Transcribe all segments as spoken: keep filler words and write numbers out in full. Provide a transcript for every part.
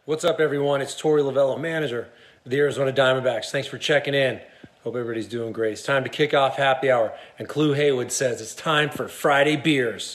What's up, everyone? It's Torey Lovullo, manager of the Arizona Diamondbacks. Thanks for checking in. Hope everybody's doing great. It's time to kick off happy hour, and Clue Haywood says it's time for Friday beers.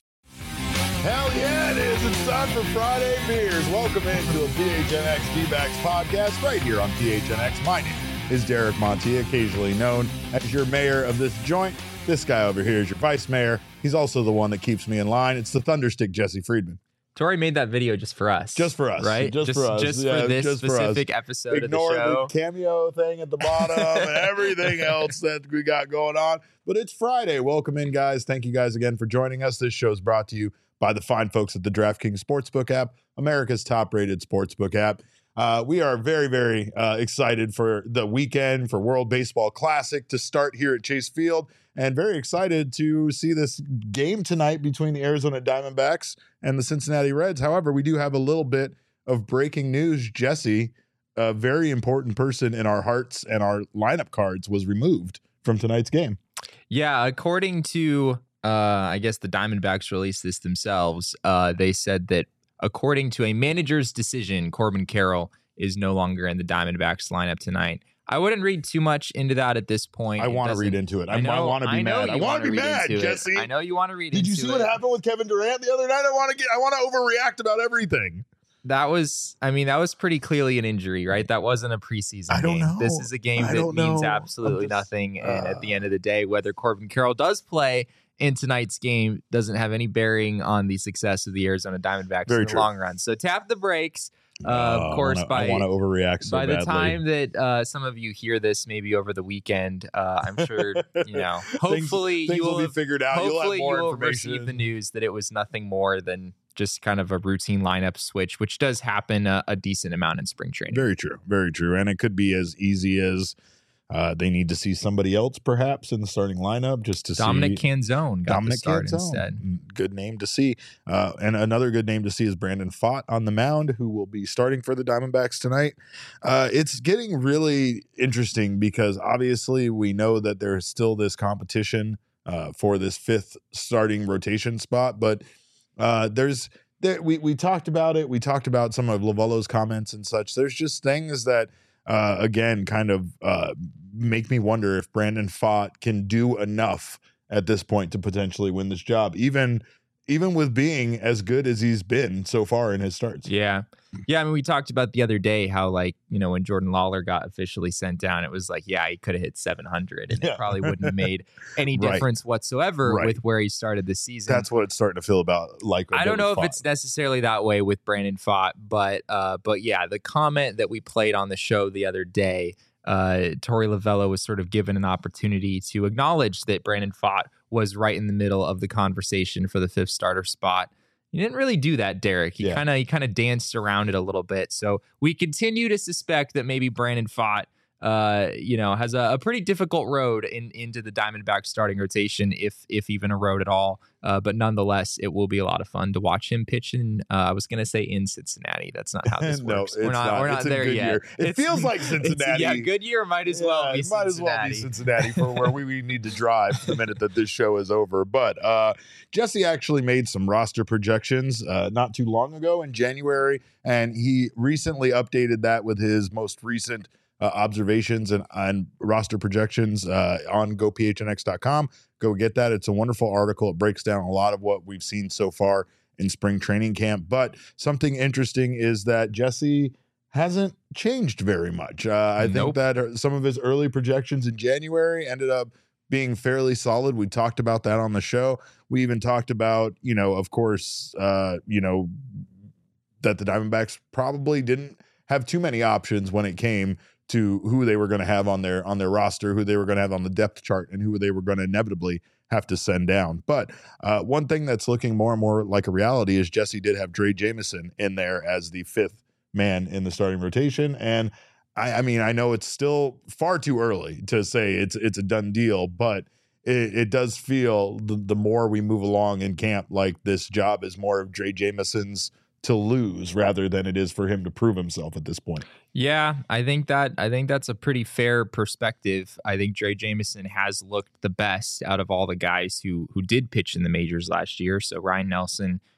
Hell yeah, it is. It's time for Friday beers. Welcome into a P H N X D-Backs podcast right here on P H N X. My name is Derek Monti, occasionally known as your mayor of this joint. This guy over here is your vice mayor. He's also the one that keeps me in line. It's the Thunderstick Jesse Friedman. Tori made that video just for us. Just for us. Right? Just, just for us. Just yeah, for this just specific for episode Ignore of the show. the cameo thing at the bottom and everything else that we got going on. But it's Friday. Welcome in, guys. Thank you guys again for joining us. This show is brought to you by the fine folks at the DraftKings Sportsbook app, America's top-rated sportsbook app. Uh, we are very, very uh, excited for the weekend, for World Baseball Classic to start here at Chase Field, and very excited to see this game tonight between the Arizona Diamondbacks and the Cincinnati Reds. However, we do have a little bit of breaking news. Jesse, a very important person in our hearts and our lineup cards, was removed from tonight's game. Yeah, according to, uh, I guess the Diamondbacks released this themselves. Uh, they said that according to a manager's decision, Corbin Carroll is no longer in the Diamondbacks lineup tonight. I wouldn't read too much into that at this point. I want to read into it. I, I, I want to be I mad. I want to be mad, Jesse. It. I know you want to read Did into it. Did you see what happened with Kevin Durant the other night? I want to get. I want to overreact about everything. That was, I mean, that was pretty clearly an injury, right? That wasn't a preseason I don't game. know. This is a game I that don't means know. absolutely just, nothing. Uh, and at the end of the day, whether Corbin Carroll does play in tonight's game doesn't have any bearing on the success of the Arizona Diamondbacks Very in the true. long run. So tap the brakes. Uh, uh, of course, I wanna, by I want to overreact so by the badly. time that uh, some of you hear this, maybe over the weekend, uh, I'm sure you know. Hopefully, things, things you will will be have, figured out. You'll have hopefully, more you will information. receive the news that it was nothing more than just kind of a routine lineup switch, which does happen a, a decent amount in spring training. Very true. Very true. And it could be as easy as uh, they need to see somebody else, perhaps, in the starting lineup, just to Dominic see Canzone got Dominic the start Canzone. instead. Good name to see. Uh, and another good name to see is Brandon Pfaadt on the mound, who will be starting for the Diamondbacks tonight. Uh, it's getting really interesting because obviously we know that there's still this competition uh, for this fifth starting rotation spot, but uh, there's there, we we talked about it. We talked about some of Lovullo's comments and such. There's just things that uh, again kind of uh, make me wonder if Brandon Pfaadt can do enough at this point to potentially win this job, even even with being as good as he's been so far in his starts. Yeah. Yeah. I mean, we talked about the other day how, like, you know, when Jordan Lawler got officially sent down, it was like, yeah, he could have hit seven hundred and Yeah. it probably wouldn't have made any Right. difference whatsoever Right. with where he started the season. That's what it's starting to feel about. Like I don't know if Pfaadt. it's necessarily that way with Brandon Pfaadt, but uh, but yeah, the comment that we played on the show the other day, uh, Torey Lovullo was sort of given an opportunity to acknowledge that Brandon Pfaadt was right in the middle of the conversation for the fifth starter spot. He didn't really do that, Derek. He Yeah. kind of he kind of danced around it a little bit. So we continue to suspect that maybe Brandon Pfaadt, uh, you know, has a, a pretty difficult road in into the Diamondbacks starting rotation, if if even a road at all. Uh, but nonetheless, it will be a lot of fun to watch him pitch in. Uh, I was going to say in Cincinnati. That's not how this No, works. it's we're not. not. We're not It's in there Goodyear. yet. It It's- feels like it's- Cincinnati. Yeah, Goodyear might as well Yeah, be it might as well be Cincinnati for where we, we need to drive the minute that this show is over. But uh, Jesse actually made some roster projections uh, not too long ago in January, and he recently updated that with his most recent uh, observations and, and roster projections uh, on go p h n x dot com. Go get that. It's a wonderful article. It breaks down a lot of what we've seen so far in spring training camp. But something interesting is that Jesse hasn't changed very much. Uh, I Nope. think that some of his early projections in January ended up being fairly solid. We talked about that on the show. We even talked about, you know, of course, uh, you know, that the Diamondbacks probably didn't have too many options when it came to who they were going to have on their on their roster, who they were going to have on the depth chart, and who they were going to inevitably have to send down. But uh, one thing that's looking more and more like a reality is Jesse did have Dre Jameson in there as the fifth man in the starting rotation. And I, I mean, I know it's still far too early to say it's it's a done deal, but it, it does feel the, the more we move along in camp, like this job is more of Dre Jameson's to lose rather than it is for him to prove himself at this point. Yeah, I think that I think that's a pretty fair perspective. I think Dre Jameson has looked the best out of all the guys who who did pitch in the majors last year. So Ryan Nelson,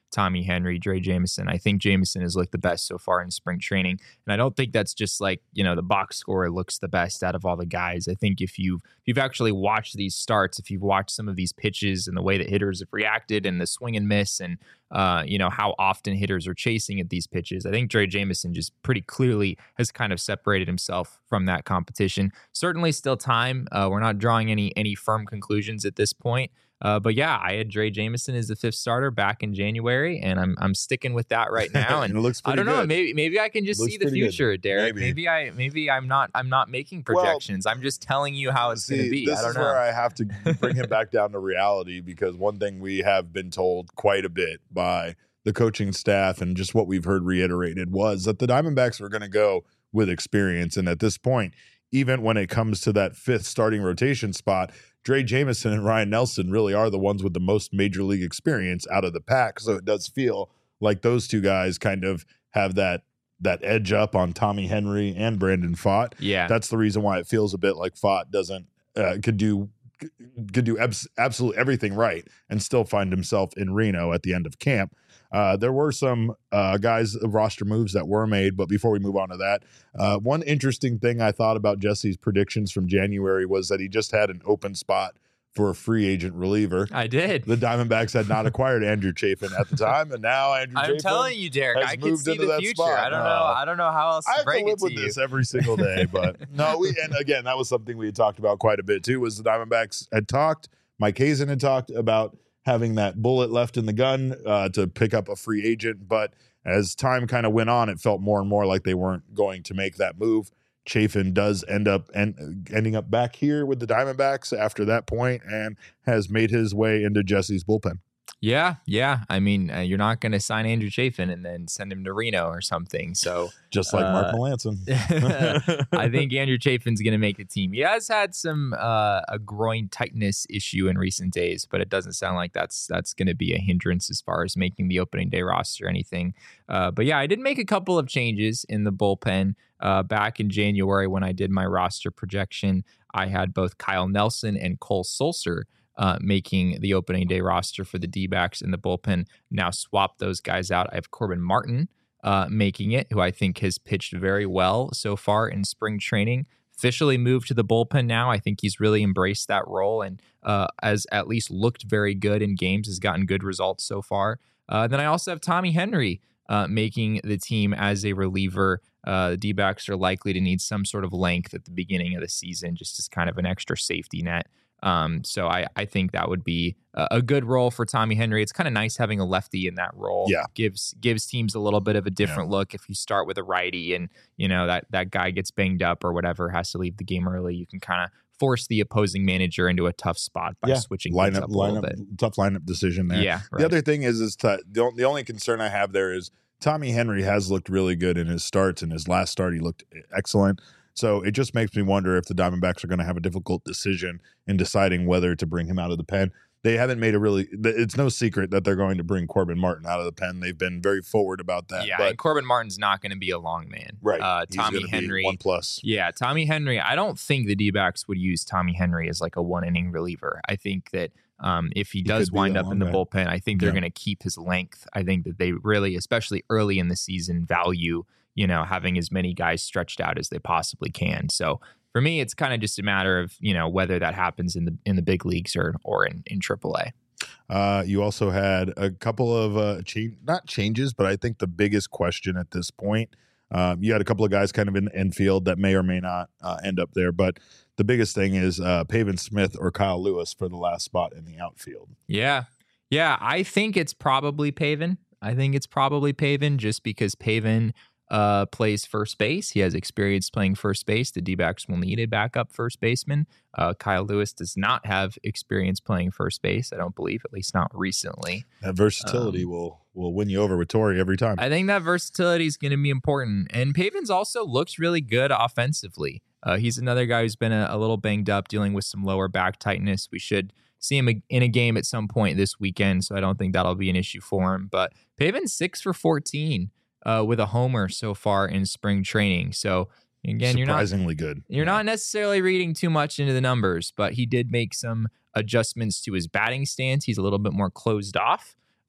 Tommy Henry, Dre Jameson. I think Jameson has looked the best so far in spring training. And I don't think that's just like, you know, the box score looks the best out of all the guys. I think if you've, if you've actually watched these starts, if you've watched some of these pitches and the way that hitters have reacted and the swing and miss and, uh, you know, how often hitters are chasing at these pitches, I think Dre Jameson just pretty clearly has kind of separated himself from that competition. Certainly still time. Uh, we're not drawing any any firm conclusions at this point. Uh, but yeah, I had Dre Jameson as the fifth starter back in January, and I'm I'm sticking with that right now. And it looks pretty I don't know, good. maybe maybe I can just Looks see the pretty good. future, Derek. Maybe. Maybe. I maybe I'm not I'm not making projections. I'm just telling you how it's See, going to be. This I don't is know. where I have to bring him back down to reality, because one thing we have been told quite a bit by the coaching staff and just what we've heard reiterated was that the Diamondbacks were going to go with experience. And at this point, even when it comes to that fifth starting rotation spot, Dre Jameson and Ryan Nelson really are the ones with the most major league experience out of the pack. So it does feel like those two guys kind of have that that edge up on Tommy Henry and Brandon Pfaadt. Yeah. That's the reason why it feels a bit like Pfaadt doesn't uh, could do could do abs- absolutely everything right and still find himself in Reno at the end of camp. Uh, there were some uh, guys roster moves that were made, but before we move on to that, uh, one interesting thing I thought about Jesse's predictions from January was that he just had an open spot for a free agent reliever. I did. The Diamondbacks had not acquired Andrew Chafin at the time, and now Andrew I'm Chafin telling you, Derek, has I can moved see into the that future. spot. I don't Uh, know. I don't know how else I to have to break live it to with you. this every single day, but no, we and again that was something we had talked about quite a bit too. Was the Diamondbacks had talked, Mike Hazen had talked about having that bullet left in the gun uh, to pick up a free agent, but as time kind of went on, it felt more and more like they weren't going to make that move. Chafin does end up en- ending up back here with the Diamondbacks after that point and has made his way into Jesse's bullpen. Yeah, yeah. I mean, uh, you're not going to sign Andrew Chafin and then send him to Reno or something. So Just like Uh, Mark Melanson. I think Andrew Chafin's going to make the team. He has had some uh, a groin tightness issue in recent days, but it doesn't sound like that's that's going to be a hindrance as far as making the opening day roster or anything. Uh, but yeah, I did make a couple of changes in the bullpen uh, back in January when I did my roster projection. I had both Kyle Nelson and Cole Sulser Uh, making the opening day roster for the D-backs in the bullpen. Now swap those guys out. I have Corbin Martin uh, making it, who I think has pitched very well so far in spring training. Officially moved to the bullpen now. I think he's really embraced that role and uh, has at least looked very good in games, has gotten good results so far. Uh, then I also have Tommy Henry uh, making the team as a reliever. Uh, the D-backs are likely to need some sort of length at the beginning of the season, just as kind of an extra safety net. Um, so I, I think that would be a, a good role for Tommy Henry. It's kind of nice having a lefty in that role. Yeah. Gives gives teams a little bit of a different yeah. look. If you start with a righty and, you know, that, that guy gets banged up or whatever, has to leave the game early, you can kind of force the opposing manager into a tough spot by yeah. switching lineup, things up a lineup, little bit. Tough lineup decision there. Yeah. Right. The other thing is, is to, the, the only concern I have there is Tommy Henry has looked really good in his starts. In his last start, he looked excellent. So it just makes me wonder if the Diamondbacks are going to have a difficult decision in deciding whether to bring him out of the pen. They haven't made a really, it's no secret that they're going to bring Corbin Martin out of the pen. They've been very forward about that. Yeah, but, and Corbin Martin's not going to be a long man. Right. Uh, Tommy He's Henry. Be one plus. Yeah, Tommy Henry. I don't think the D-backs would use Tommy Henry as like a one inning reliever. I think that um, if he, he does wind up in the guy. bullpen, I think they're yeah. going to keep his length. I think that they really, especially early in the season, value, you know, having as many guys stretched out as they possibly can. So for me, it's kind of just a matter of, you know, whether that happens in the in the big leagues or or in, in triple A. Uh, you also had a couple of uh, change, not changes, but I think the biggest question at this point, um, you had a couple of guys kind of in the infield that may or may not uh, end up there. But the biggest thing is uh, Pavin Smith or Kyle Lewis for the last spot in the outfield. Yeah. Yeah. I think it's probably Pavin. I think it's probably Pavin just because Pavin uh, plays first base. He has experience playing first base. The D-backs will need a backup first baseman. Uh, Kyle Lewis does not have experience playing first base, I don't believe, at least not recently. That versatility um, will will win you over with Torrey every time. I think that versatility is going to be important. And Pavin's also looks really good offensively. Uh, he's another guy who's been a, a little banged up, dealing with some lower back tightness. We should see him in a game at some point this weekend, so I don't think that'll be an issue for him. But Pavin's six for fourteen. Uh, with a homer so far in spring training. So again, you're not surprisingly good. You're yeah. not necessarily reading too much into the numbers, but he did make some adjustments to his batting stance. He's a little bit more closed off.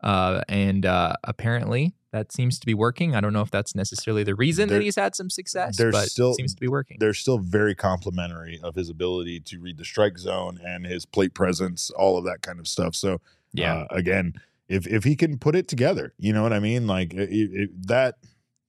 Uh, and uh, apparently that seems to be working. I don't know if that's necessarily the reason There- that he's had some success, there's but still- it seems to be working. They're still very complimentary of his ability to read the strike zone and his plate presence, all of that kind of stuff. So Yeah. uh, again, if if he can put it together, you know what I mean? Like it, it, that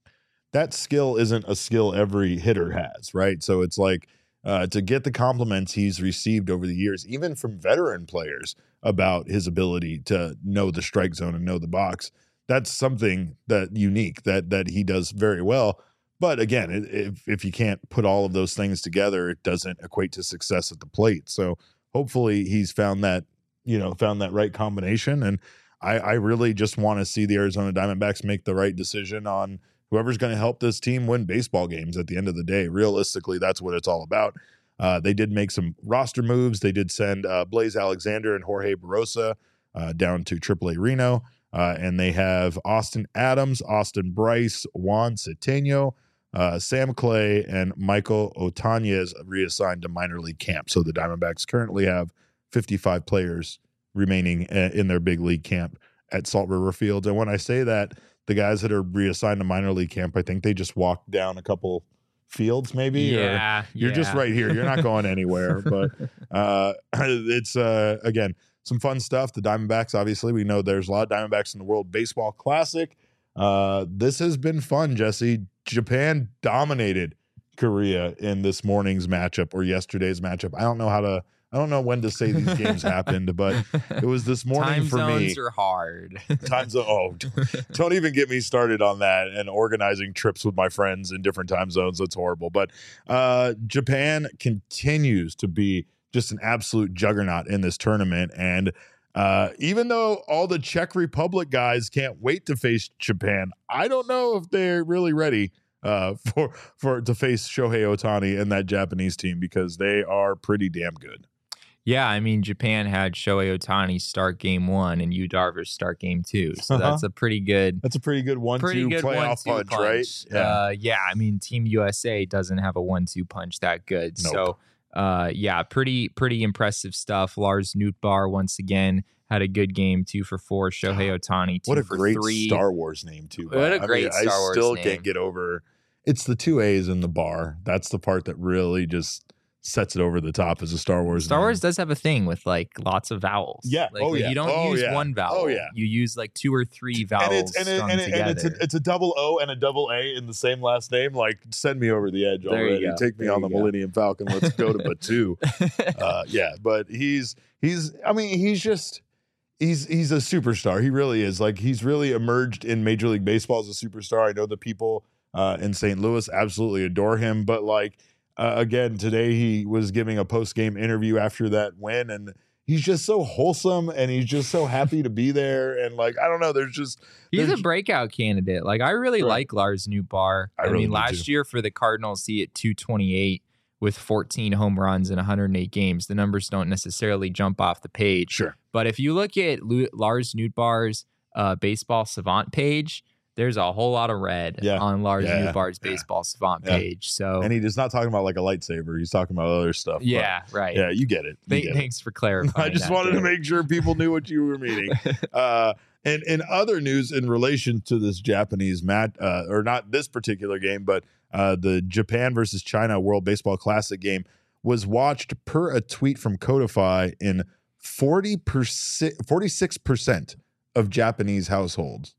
that skill isn't a skill every hitter has, right? So it's like uh, to get the compliments he's received over the years, even from veteran players, about his ability to know the strike zone and know the box. That's something that unique that that he does very well. But again, it, if if you can't put all of those things together, it doesn't equate to success at the plate. So hopefully he's found that, you know, found that right combination. And I, I really just want to see the Arizona Diamondbacks make the right decision on whoever's going to help this team win baseball games at the end of the day. Realistically, that's what it's all about. Uh, they did make some roster moves. They did send uh, Blaze Alexander and Jorge Barosa uh, down to triple A Reno. Uh, and they have Austin Adams, Austin Bryce, Juan Ceteno, uh, Sam Clay, and Michael Otanez reassigned to minor league camp. So the Diamondbacks currently have fifty-five players remaining in their big league camp at Salt River Field. And when I say that, the guys that are reassigned to minor league camp, I think they just walk down a couple fields maybe. Yeah, or you're yeah. just right here. You're not going anywhere. But uh, it's, uh, again, some fun stuff. The Diamondbacks, obviously, we know there's a lot of Diamondbacks in the World Baseball Classic. Uh, this has been fun, Jesse. Japan dominated Korea in this morning's matchup or yesterday's matchup. I don't know how to, I don't know when to say these games happened, but it was this morning Time for me. zones are hard. Time zone. Oh, don't even get me started on that and organizing trips with my friends in different time zones. That's horrible. But uh, Japan continues to be just an absolute juggernaut in this tournament. And uh, even though all the Czech Republic guys can't wait to face Japan, I don't know if they're really ready uh, for for to face Shohei Ohtani and that Japanese team, because they are pretty damn good. Yeah, I mean, Japan had Shohei Ohtani start game one and Yu Darvish start game two. So Uh-huh. that's a pretty good, That's a pretty good one pretty two good playoff one-two punch, right? Yeah. Uh, yeah, I mean, Team U S A doesn't have a one two punch that good. Nope. So, uh, yeah, pretty pretty impressive stuff. Lars Nootbaar once again had a good game, two for four. Shohei Ohtani, two What a for great three. Star Wars name too. What a Bob. great I mean, Star I Wars still name. can't get over. It's the two A's in the bar. That's the part that really just sets it over the top as a Star Wars. Star name. Wars does have a thing with like lots of vowels. Yeah. Like, Oh, like, yeah. You don't Oh, use yeah. one vowel. Oh, yeah. You use like two or three vowels and it's and, it, strung and, it, together. and it's a, it's a double O and a double A in the same last name. Like, send me over the edge There you already. go. Take me There on the you go. Millennium Falcon. Let's go to Batu. uh, yeah, but he's he's. I mean, he's just. He's he's a superstar. He really is. Like, he's really emerged in Major League Baseball as a superstar. I know the people uh, in Saint Louis absolutely adore him. But like uh, again, today he was giving a post game interview after that win, and he's just so wholesome, and he's just so happy to be there. And like, I don't know, there's just He's there's- a breakout candidate. Like I really Right. like Lars Nootbaar. I I, really mean, do, last too. year for the Cardinals, he hit two twenty-eight with fourteen home runs in one hundred eight games. The numbers don't necessarily jump off the page. sure. But if you look at Lu- Lars Nootbaar's uh, baseball savant page, there's a whole lot of red Yeah. on Lars Yeah. Nootbaar's Yeah. baseball savant Yeah. page. So And he is not talking about like a lightsaber. He's talking about other stuff. but yeah, right. yeah, you get it. You Th- get it. thanks for clarifying. I just that, wanted to Dave. make sure people knew what you were meaning. Uh, and in other news in relation to this Japanese mat, uh, or not this particular game, but uh, the Japan versus China World Baseball Classic game was watched per a tweet from Codify in forty percent, forty-six percent of Japanese households.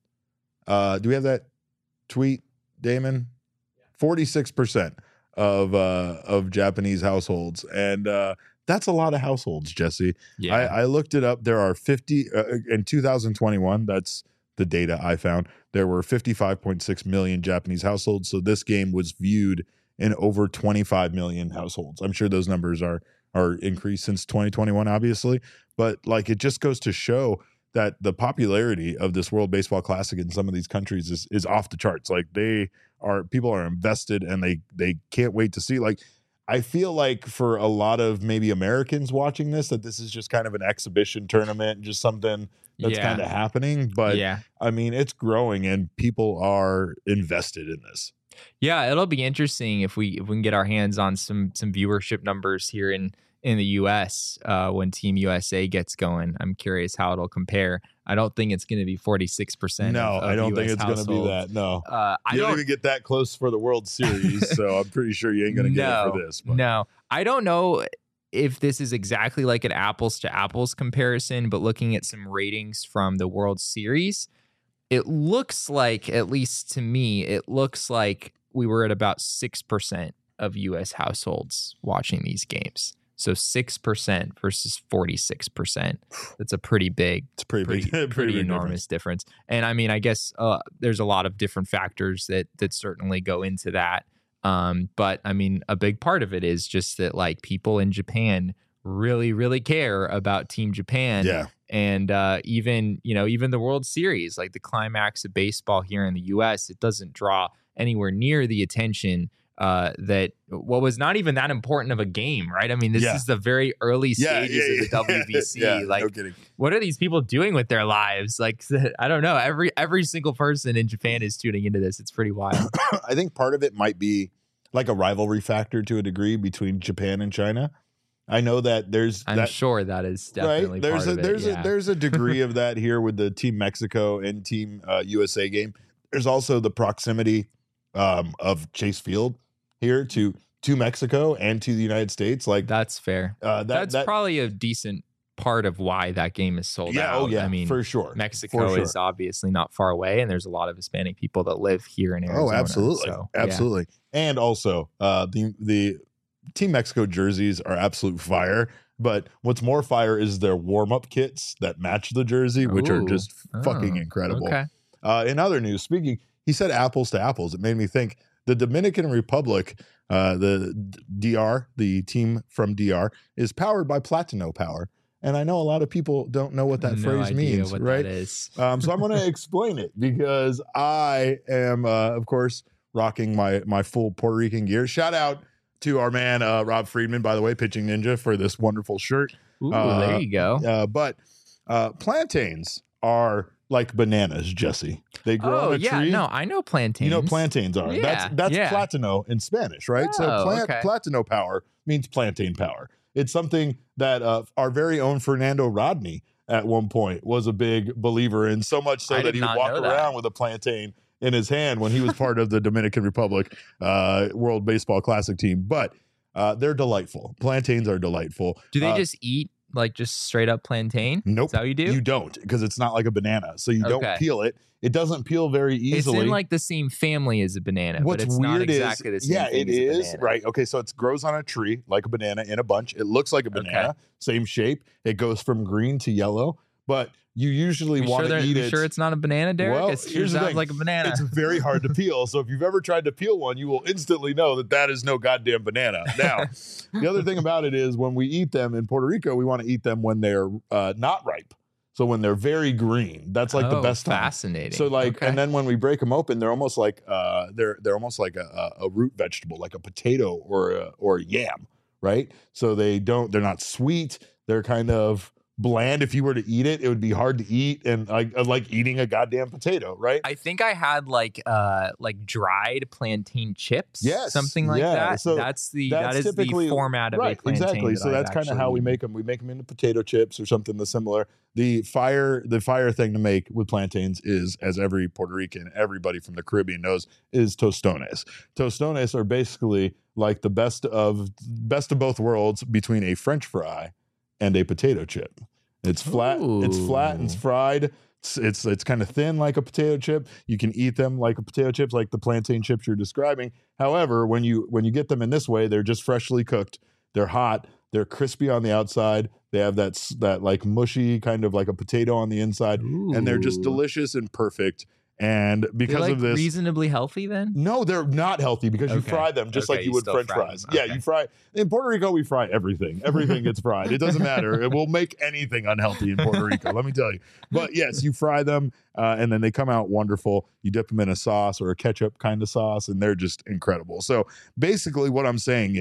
Uh, do we have that tweet, Damon? forty-six percent of uh, of Japanese households, and uh, that's a lot of households, Jesse. Yeah. I, I looked it up. There are fifty uh, in two thousand twenty-one. That's the data I found. There were fifty-five point six million Japanese households. So this game was viewed in over twenty-five million households. I'm sure those numbers are are increased since twenty twenty-one, obviously. But like, it just goes to show that the popularity of this World Baseball Classic in some of these countries is is off the charts. Like, they are people are invested, and they they can't wait to see. Like, I feel like for a lot of maybe Americans watching this, that this is just kind of an exhibition tournament, just something that's Yeah. kind of happening. But yeah. I mean, it's growing, and people are invested in this. Yeah, it'll be interesting if we if we can get our hands on some some viewership numbers here in in the U S uh, when Team U S A gets going. I'm curious how it'll compare. I don't think it's going to be forty-six percent. No, of, of I don't U S think it's going to be that. No, uh, I you don't, don't even get that close for the World Series, so I'm pretty sure you ain't going to no, get it for this. But. No, I don't know if this is exactly like an apples to apples comparison, but looking at some ratings from the World Series, it looks like, at least to me, it looks like we were at about six percent of U S households watching these games. So six percent versus forty-six percent. That's a pretty big, it's pretty, pretty, big, pretty, pretty big enormous difference. difference. And I mean, I guess uh, there's a lot of different factors that that certainly go into that. Um, but I mean, a big part of it is just that like people in Japan really, really care about Team Japan. Yeah. And uh, even, you know, even the World Series, like the climax of baseball here in the U S, it doesn't draw anywhere near the attention uh, that what was not even that important of a game, right? I mean, this yeah. is the very early yeah, stages yeah, yeah, of the W B C. yeah, like, no kidding. What are these people doing with their lives? Like, I don't know. Every every single person in Japan is tuning into this. It's pretty wild. I think part of it might be like a rivalry factor to a degree between Japan and China. I know that there's I'm that, sure that is definitely right? There's part a of there's it, yeah. a there's a degree of that here with the Team Mexico and Team uh, U S A game. There's also the proximity um, of Chase Field here to to Mexico and to the United States. Like that's fair. Uh, that, that's that, probably a decent part of why that game is sold yeah, out. Oh yeah, I mean, for sure. Mexico for sure. is obviously not far away, and there's a lot of Hispanic people that live here in Arizona. Oh, absolutely, so, absolutely. Yeah. And also, uh, the the Team Mexico jerseys are absolute fire. But what's more fire is their warm up kits that match the jersey, which Ooh. are just Oh, fucking incredible. Okay. Uh, in other news, speaking, he said apples to apples. It made me think the Dominican Republic, uh, the D R, the team from D R, is powered by Platino Power. And I know a lot of people don't know what that no phrase idea means, what right? That is. Um, so I'm going to explain it because I am, uh, of course, rocking my my full Puerto Rican gear. Shout out to our man uh, Rob Friedman, by the way, Pitching Ninja, for this wonderful shirt. Ooh, uh, there you go. Uh, but uh, plantains are like bananas, Jesse. They grow oh on a yeah, tree. no, I know plantains. You know what plantains are. Yeah, that's that's yeah. platino in Spanish, right? so Oh, plant, okay. Platino power means plantain power. It's something that uh, our very own Fernando Rodney at one point was a big believer in, so much so I that did he would not walk know that. around with a plantain in his hand when he was part of the Dominican Republic uh, World Baseball Classic team. But uh, they're delightful. Plantains are delightful. Do they Uh, just eat like just straight up plantain? Nope. Is that how you do? You don't, because it's not like a banana. So you don't Okay. peel it. It doesn't peel very easily. It's in like the same family as a banana, What's but it's weird not exactly is, the same yeah, thing it as a is banana. right. Okay, so it grows on a tree like a banana in a bunch. It looks like a banana, Okay. same shape. It goes from green to yellow, but you usually You want sure, to they're- eat you it. sure it's not a banana, Derek? Well, It sure here's the sounds thing. like a banana. It's very hard to peel. So if you've ever tried to peel one, you will instantly know that that is no goddamn banana. Now, the other thing about it is when we eat them in Puerto Rico, we want to eat them when they're uh, not ripe. So when they're very green, that's like the Oh, best time. fascinating. So like, Okay. and then when we break them open, they're almost like uh, they're they're almost like a, a root vegetable, like a potato or a, or a yam, right? So they don't, they're not sweet. They're kind of bland. If you were to eat it, it would be hard to eat, and like like eating a goddamn potato, right? I think I had like uh like dried plantain chips. Yes, something like yeah. that. So that's the that's that is typically- the format of right, a plantain. exactly. that So that's I've kind of actually how we eaten. make them. We make them into potato chips or something similar. The fire, the fire thing to make with plantains is, as every Puerto Rican, everybody from the Caribbean knows, is tostones. Tostones are basically like the best of best of both worlds between a French fry and a potato chip. It's flat. It's flat and it's Ooh. fried. It's it's, it's kind of thin like a potato chip. You can eat them like a potato chips, like the plantain chips you're describing. However, when you when you get them in this way, they're just freshly cooked. They're hot. They're crispy on the outside. They have that s- that like mushy kind of like a potato on the inside, and they're just Ooh. delicious and perfect. And They're, because like, of this, reasonably healthy then. no, they're not healthy because you Okay. fry them just Okay, like you you would still French fry fries. them. Yeah, Okay. you fry in Puerto Rico. We fry everything. Everything gets fried. It doesn't matter. It will make anything unhealthy in Puerto Rico. Let me tell you. But yes, you fry them, uh, and then they come out wonderful. You dip them in a sauce or a ketchup kind of sauce, and they're just incredible. So basically, what I'm saying is,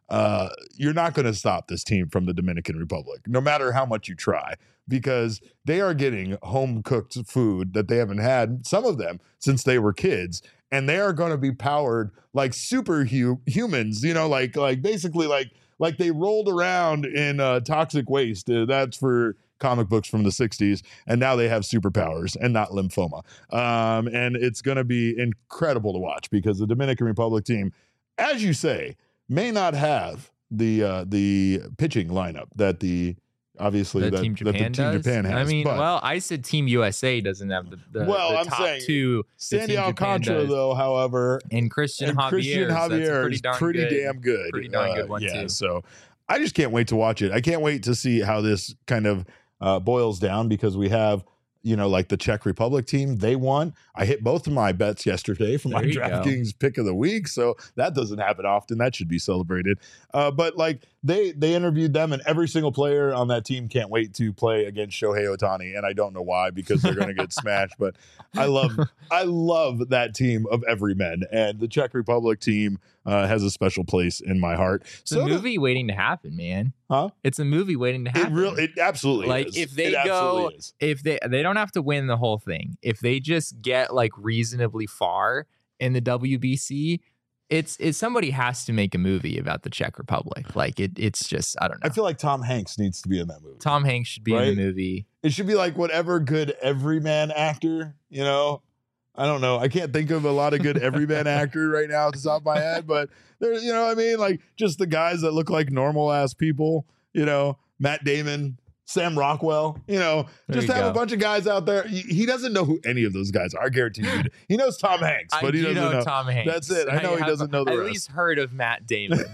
uh, you're not going to stop this team from the Dominican Republic, no matter how much you try, because they are getting home cooked food that they haven't had, some of them, since they were kids. And they are going to be powered like super hu- humans, you know, like like basically like like they rolled around in uh, toxic waste. Uh, that's for comic books from the sixties. And now they have superpowers and not lymphoma. Um, and it's going to be incredible to watch because the Dominican Republic team, as you say, may not have the uh, the pitching lineup that the obviously The that, Team that the Japan Team does. Japan has. I mean, but well, I said Team U S A doesn't have the, the, Well, the I'm top saying two. that Sandy Team Japan Alcantara, does. though, however, and Christian and Javier. Christian so that's a Javier pretty is darn pretty good, damn good. Pretty darn Uh, good one yeah, too. So I just can't wait to watch it. I can't wait to see how this kind of uh, boils down because we have, you know, like the Czech Republic team, they won. I hit both of my bets yesterday for my There you go. DraftKings pick of the week. So that doesn't happen often. That should be celebrated. Uh, but like they they interviewed them, and every single player on that team can't wait to play against Shohei Ohtani. And I don't know why, because they're going to get smashed. But I love I love that team of everymen. And the Czech Republic team uh, has a special place in my heart. It's So a movie waiting to happen, man. Huh? It's a movie waiting to it happen. really it absolutely like is. if they It go absolutely is. if they they don't have to win the whole thing, if they just get like reasonably far in the W B C, it's it's somebody has to make a movie about the Czech Republic. Like it it's just I don't know. I feel like Tom Hanks needs to be in that movie. Tom Hanks should be Right? in the movie. It should be like whatever good everyman actor, you know. I don't know. I can't think of a lot of good everyman actor right now at the top of my head, but there's, you know what I mean? Like just the guys that look like normal ass people, you know, Matt Damon, Sam Rockwell, you know, There just you have a go. bunch of guys out there. He, he doesn't know who any of those guys are. I guarantee you. He knows Tom Hanks, but I he do doesn't know, know. Tom Hanks. That's it. I know he have doesn't know the at rest. least heard of Matt Damon.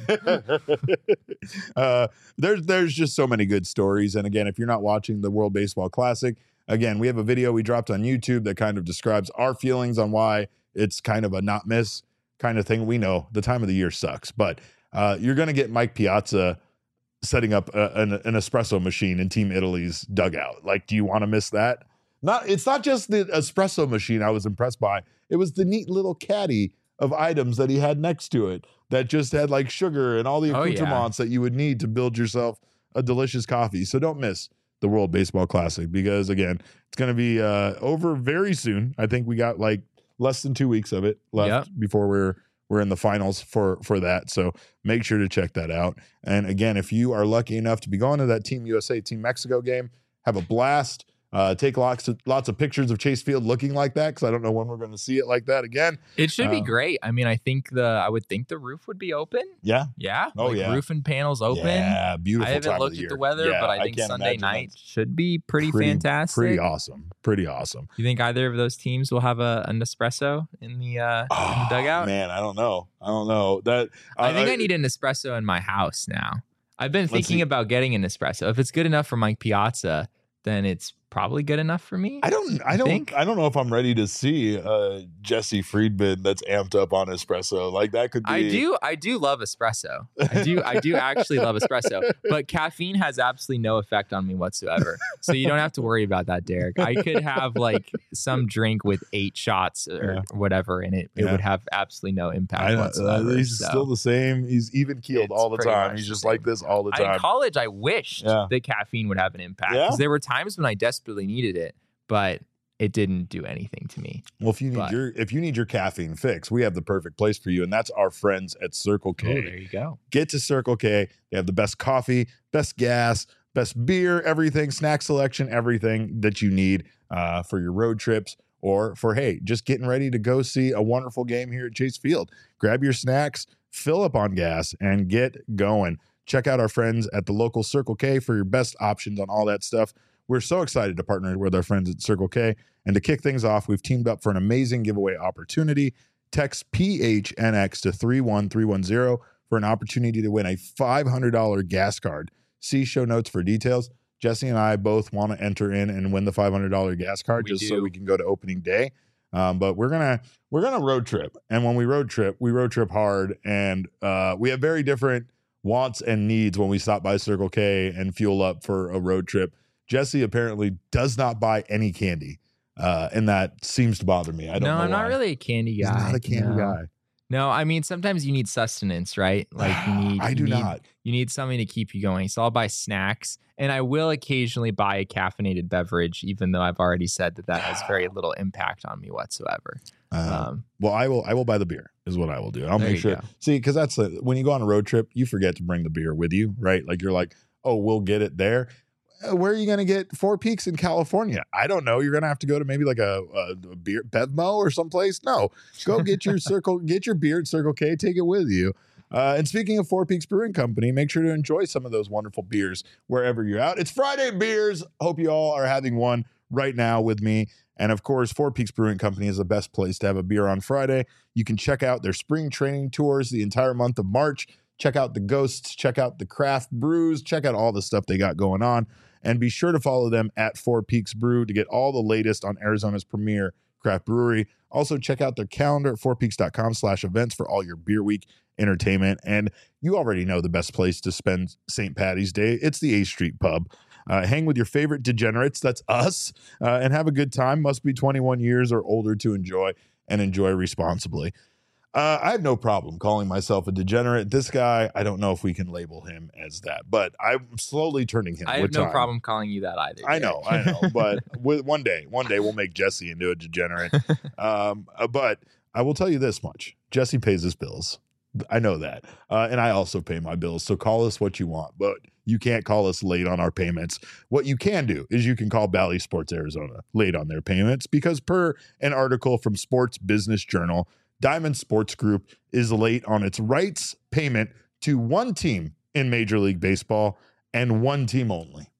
uh, there's there's just so many good stories. And again, if you're not watching the World Baseball Classic, again, we have a video we dropped on YouTube that kind of describes our feelings on why it's kind of a not miss kind of thing. We know the time of the year sucks, but uh, you're going to get Mike Piazza setting up a, an, an espresso machine in Team Italy's dugout. Like, do you want to miss that? Not. It's not just the espresso machine I was impressed by. It was the neat little caddy of items that he had next to it that just had like sugar and all the Oh, yeah. accoutrements that you would need to build yourself a delicious coffee. So don't miss the World Baseball Classic because, again, it's going to be uh, over very soon. I think we got like less than two weeks of it left Yep. before we're we're in the finals for for that. So make sure to check that out. And again, if you are lucky enough to be going to that Team U S A, Team Mexico game, have a blast. Uh, take lots of lots of pictures of Chase Field looking like that because I don't know when we're going to see it like that again. It should be Uh, great. I mean, I think the I would think the roof would be open. Yeah. Yeah. Oh, like yeah. Roof and panels open. Yeah, beautiful I haven't time looked of the at year. the weather, Yeah, but I think can't Sunday imagine night that's should be pretty, pretty- fantastic. Pretty awesome. Pretty awesome. You think either of those teams will have a, an espresso in the, uh, in the Oh, dugout? Man, I don't know. I don't know. That I think I need an espresso in my house now. I've been Let's thinking see. about getting an espresso. If it's good enough for Mike Piazza, then it's probably good enough for me. I don't. I don't. think? I don't know if I'm ready to see uh, Jesse Friedman that's amped up on espresso. Like that could be. I do I do love espresso. I do I do actually love espresso, but caffeine has absolutely no effect on me whatsoever. So you don't have to worry about that, Derek. I could have like some drink with eight shots or Yeah. whatever and it, it Yeah. would have absolutely no impact I know, uh, whatsoever. he's So, still the same. He's even keeled It's all the pretty time. much He's the just same. like this all the in time. college I wished Yeah. that caffeine would have an impact Yeah? because there were times when I desperately needed it, but it didn't do anything to me. Well, if you need But- your if you need your caffeine fix, we have the perfect place for you, and that's our friends at Circle K. Oh, there you go. Get to Circle K. They have the best coffee, best gas, best beer, everything, snack selection, everything that you need uh, for your road trips or for, hey, just getting ready to go see a wonderful game here at Chase Field. Grab your snacks, fill up on gas, and get going. Check out our friends at the local Circle K for your best options on all that stuff. We're so excited to partner with our friends at Circle K. And to kick things off, we've teamed up for an amazing giveaway opportunity. Text P H N X to three one three one zero for an opportunity to win a five hundred dollars gas card. See show notes for details. Jesse and I both want to enter in and win the five hundred dollars gas card We just so do. we can go to opening day. Um, but we're gonna we're gonna road trip, and when we road trip, we road trip hard, and uh, we have very different wants and needs when we stop by Circle K and fuel up for a road trip. Jesse apparently does not buy any candy, uh, and that seems to bother me. I don't no, know I'm not why. really a candy He's guy. not a candy no. guy. No, I mean, sometimes you need sustenance, right? Like you need, I you do need, not. you need something to keep you going. So I'll buy snacks, and I will occasionally buy a caffeinated beverage, even though I've already said that that has very little impact on me whatsoever. Uh, Um, well, I will. I will buy the beer. Is what I will do. I'll There make you sure. go. See, because that's the, when you go on a road trip, you forget to bring the beer with you, right? Like you're like, oh, we'll get it there. Uh, Where are you going to get Four Peaks in California? I don't know. You're going to have to go to maybe like a, a, a beer Bevmo or someplace. No, go get your circle, get your beer at Circle K, take it with you. Uh, and speaking of Four Peaks Brewing Company, make sure to enjoy some of those wonderful beers wherever you're out. It's Friday Beers. Hope you all are having one right now with me. And of course, Four Peaks Brewing Company is the best place to have a beer on Friday. You can check out their spring training tours the entire month of March. Check out the Ghosts, check out the craft brews, check out all the stuff they got going on. And be sure to follow them at Four Peaks Brew to get all the latest on Arizona's premier craft brewery. Also, check out their calendar at fourpeaks.com slash events for all your Beer Week entertainment. And you already know the best place to spend Saint Patty's Day. It's the A Street Pub. Uh, hang with your favorite degenerates, that's us, uh, and have a good time. Must be twenty-one years or older to enjoy, and enjoy responsibly. Uh, I have no problem calling myself a degenerate. This guy, I don't know if we can label him as that, but I'm slowly turning him. I have with no time. problem calling you that either. I Derek. know, I know, but with, one day, one day we'll make Jesse into a degenerate. Um, uh, but I will tell you this much: Jesse pays his bills. I know that, uh, and I also pay my bills. So call us what you want, but you can't call us late on our payments. What you can do is you can call Bally Sports Arizona late on their payments because, per an article from Sports Business Journal, Diamond Sports Group is late on its rights payment to one team in Major League Baseball and one team only.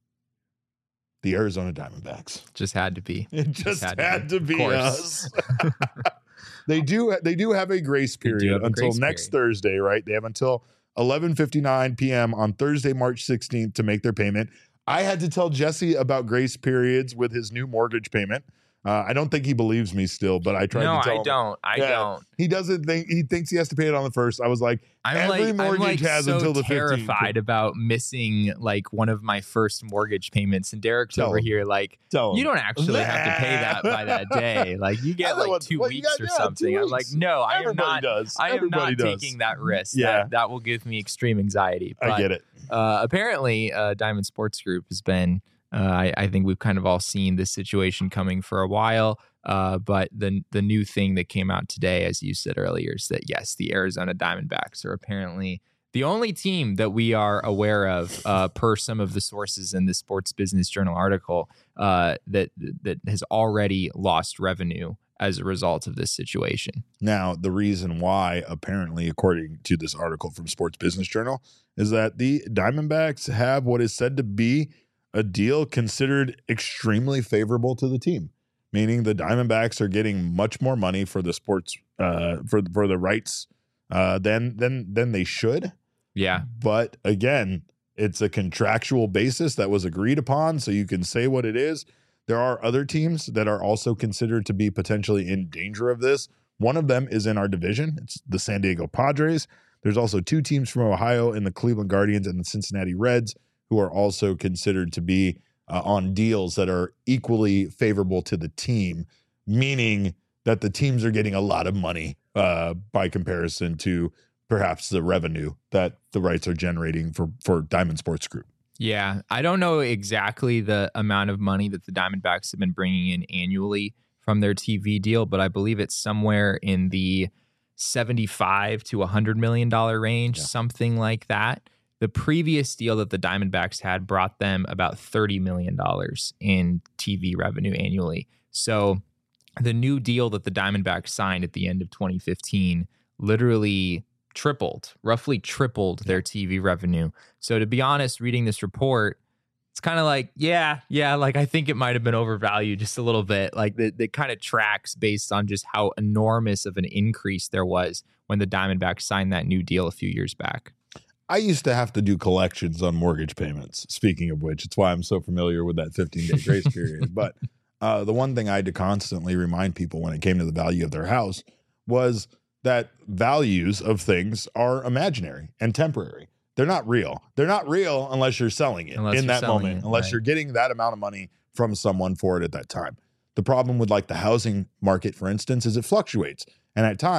The Arizona Diamondbacks. Just had to be. It just, had had, to to be. be, Of us. course. they do they do have a grace They do period have a until grace next period. Thursday, right? They have until eleven fifty-nine p.m. on Thursday, March sixteenth to make their payment. I had to tell Jesse about grace periods with his new mortgage payment. Uh, I don't think he believes me still, but I tried No, to tell I him. don't. I Yeah. don't. He doesn't think he thinks he has to pay it on the first. I was like, I'm every like, mortgage I'm like has so until the fifteenth. terrified about missing like one of my first mortgage payments, and Derek's Tell over him. here like, Tell you him. don't actually have to pay that by that day. Like you get Otherwise- like two well, you weeks got- or yeah, two something. I'm like, weeks. no, I am Everybody not. does. I am Everybody not does. taking that risk. Yeah. that, that will give me extreme anxiety. But, I get it. Uh, apparently, uh, Diamond Sports Group has been. Uh, I, I think we've kind of all seen this situation coming for a while. Uh, but the the new thing that came out today, as you said earlier, is that yes, the Arizona Diamondbacks are apparently the only team that we are aware of, uh, per some of the sources in the Sports Business Journal article, uh, that that has already lost revenue as a result of this situation. Now, the reason why, apparently, according to this article from Sports Business Journal, is that the Diamondbacks have what is said to be a deal considered extremely favorable to the team, meaning the Diamondbacks are getting much more money for the sports uh, for for the rights uh, than than than they should. Yeah, But again, it's a contractual basis that was agreed upon, so you can say what it is. There are other teams that are also considered to be potentially in danger of this. One of them is in our division. It's the San Diego Padres. There's also two teams from Ohio in the Cleveland Guardians and the Cincinnati Reds who are also considered to be uh, on deals that are equally favorable to the team, meaning that the teams are getting a lot of money uh, by comparison to perhaps the revenue that the rights are generating for, for Diamond Sports Group. yeah. I don't know exactly the amount of money that the Diamondbacks have been bringing in annually from their T V deal, but I believe it's somewhere in the seventy-five to one hundred million dollars range, Yeah. something like that. The previous deal that the Diamondbacks had brought them about thirty million dollars in T V revenue annually. So the new deal that the Diamondbacks signed at the end of twenty fifteen literally tripled, roughly tripled their T V revenue. So to be honest, reading this report, it's kind of like, yeah, yeah, like I think it might have been overvalued just a little bit. Like it, it kind of tracks based on just how enormous of an increase there was when the Diamondbacks signed that new deal a few years back. I used to have to do collections on mortgage payments. Speaking of which, it's why I'm so familiar with that fifteen-day grace period. But uh, the one thing I had to constantly remind people when it came to the value of their house was that values of things are imaginary and temporary. They're not real. They're not real unless you're selling it Unless in you're that selling moment, it, unless right. you're getting that amount of money from someone for it at that time. The problem with like the housing market, for instance, is it fluctuates. And at times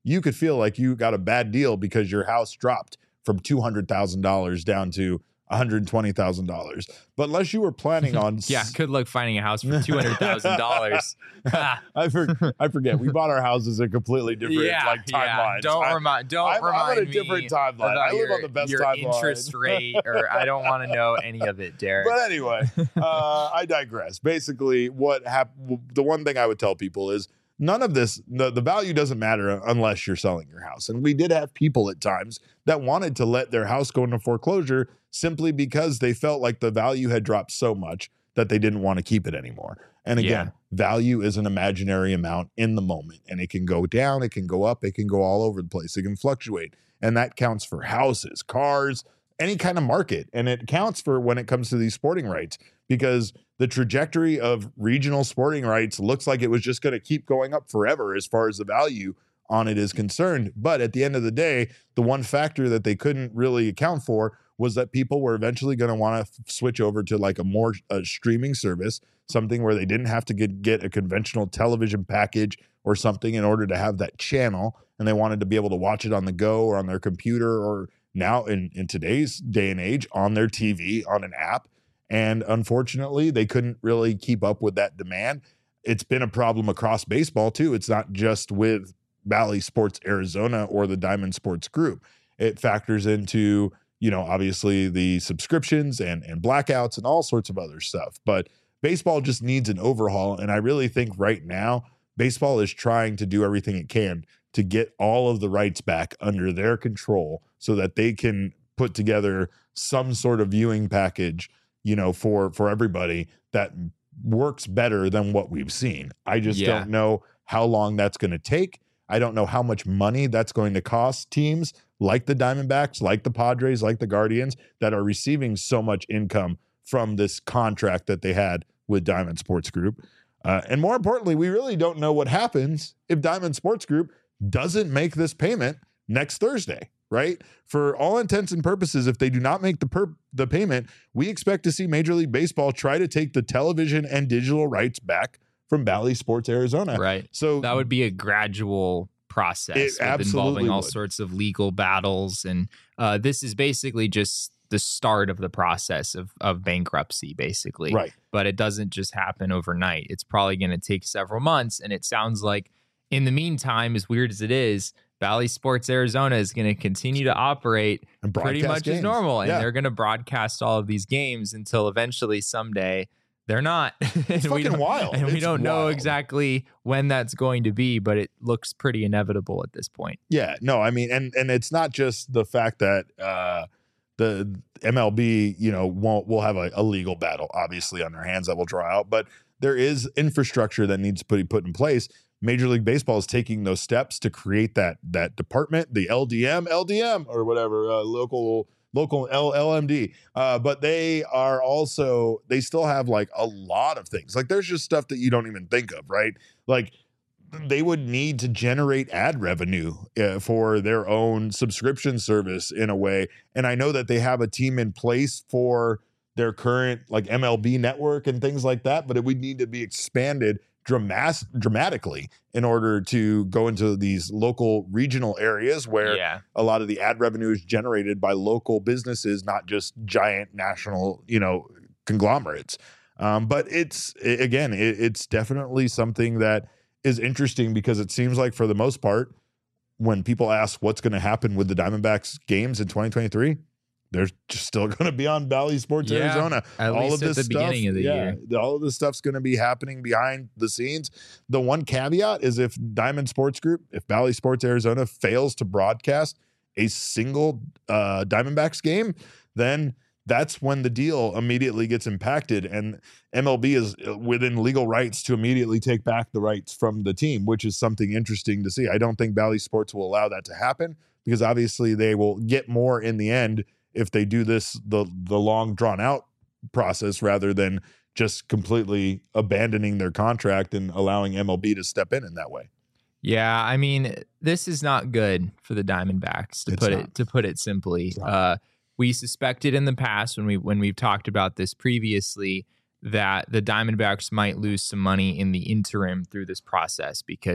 you could feel like you got a bad deal because your house dropped from two hundred thousand dollars down to one hundred twenty thousand dollars. But unless you were planning on... yeah, good luck finding a house for two hundred thousand dollars. I, for, I forget. We bought our houses in completely different yeah, like timelines. Yeah. Don't I, remind don't I'm, remind I'm on a me different timeline. I live your, on the best your timeline. interest rate, or I don't want to know any of it, Derek. But anyway, uh, I digress. Basically, what happened? The one thing I would tell people is none of this, the, the value doesn't matter unless you're selling your house. And we did have people at times that wanted to let their house go into foreclosure simply because they felt like the value had dropped so much that they didn't want to keep it anymore. And again, yeah. value is an imaginary amount in the moment, and it can go down, it can go up, it can go all over the place. It can fluctuate. And that counts for houses, cars, any kind of market. And it counts for when it comes to these sporting rights, because the trajectory of regional sporting rights looks like it was just going to keep going up forever as far as the value on it is concerned. But at the end of the day, the one factor that they couldn't really account for was that people were eventually going to want to f- switch over to like a more uh, streaming service, something where they didn't have to get, get a conventional television package or something in order to have that channel. And they wanted to be able to watch it on the go or on their computer, or now in, in today's day and age on their T V, on an app. And unfortunately, they couldn't really keep up with that demand. It's been a problem across baseball too. It's not just with Bally Sports Arizona or the Diamond Sports Group. It factors into, you know, obviously the subscriptions and, and blackouts and all sorts of other stuff. But baseball just needs an overhaul. And I really think right now, baseball is trying to do everything it can to get all of the rights back under their control so that they can put together some sort of viewing package, you know, for, for everybody that works better than what we've seen. I just Yeah. don't know how long that's going to take. I don't know how much money that's going to cost teams like the Diamondbacks, like the Padres, like the Guardians, that are receiving so much income from this contract that they had with Diamond Sports Group. Uh, and more importantly, we really don't know what happens if Diamond Sports Group doesn't make this payment next Thursday, right? For all intents and purposes, if they do not make the per- the payment, we expect to see Major League Baseball try to take the television and digital rights back from Bally Sports Arizona. Right. So that would be a gradual process with involving all would. sorts of legal battles. And uh, this is basically just the start of the process of, of bankruptcy, basically. Right. But it doesn't just happen overnight. It's probably going to take several months. And it sounds like in the meantime, as weird as it is, Bally Sports Arizona is going to continue to operate And pretty broadcast much games. as normal. And Yeah. they're going to broadcast all of these games until eventually someday they're not. It's And we fucking don't- wild. And we It's don't know wild. exactly when that's going to be, but it looks pretty inevitable at this point. Yeah, no, I mean, and and it's not just the fact that uh, the M L B, you know, won't will have a, a legal battle, obviously, on their hands that will draw out, but there is infrastructure that needs to be put in place. Major League Baseball is taking those steps to create that that department, the L D M, L D M, or whatever, uh, local local L- LMD. Uh, but they are also, they still have like a lot of things. Like there's just stuff that you don't even think of, right? Like they would need to generate ad revenue uh, for their own subscription service in a way. And I know that they have a team in place for their current like M L B network and things like that, but it would need to be expanded dramas- dramatically in order to go into these local regional areas where Yeah. a lot of the ad revenue is generated by local businesses, not just giant national, you know, conglomerates. Um, but it's i- again, it, it's definitely something that is interesting because it seems like for the most part, when people ask what's going to happen with the Diamondbacks games in twenty twenty-three, they're just still going to be on Bally Sports Yeah, Arizona. at all least of this at the stuff, beginning of the yeah, year. the- all of this stuff's going to be happening behind the scenes. The one caveat is if Diamond Sports Group, if Bally Sports Arizona fails to broadcast a single uh, Diamondbacks game, then that's when the deal immediately gets impacted. And M L B is within legal rights to immediately take back the rights from the team, which is something interesting to see. I don't think Bally Sports will allow that to happen because obviously they will get more in the end if they do this the the long drawn out process rather than just completely abandoning their contract and allowing M L B to step in in that way. Yeah, I mean, this is not good for the Diamondbacks to It's put not. it to put it simply. It's not. Uh, we suspected in the past when we when we've talked about this previously that the Diamondbacks might lose some money in the interim through this process because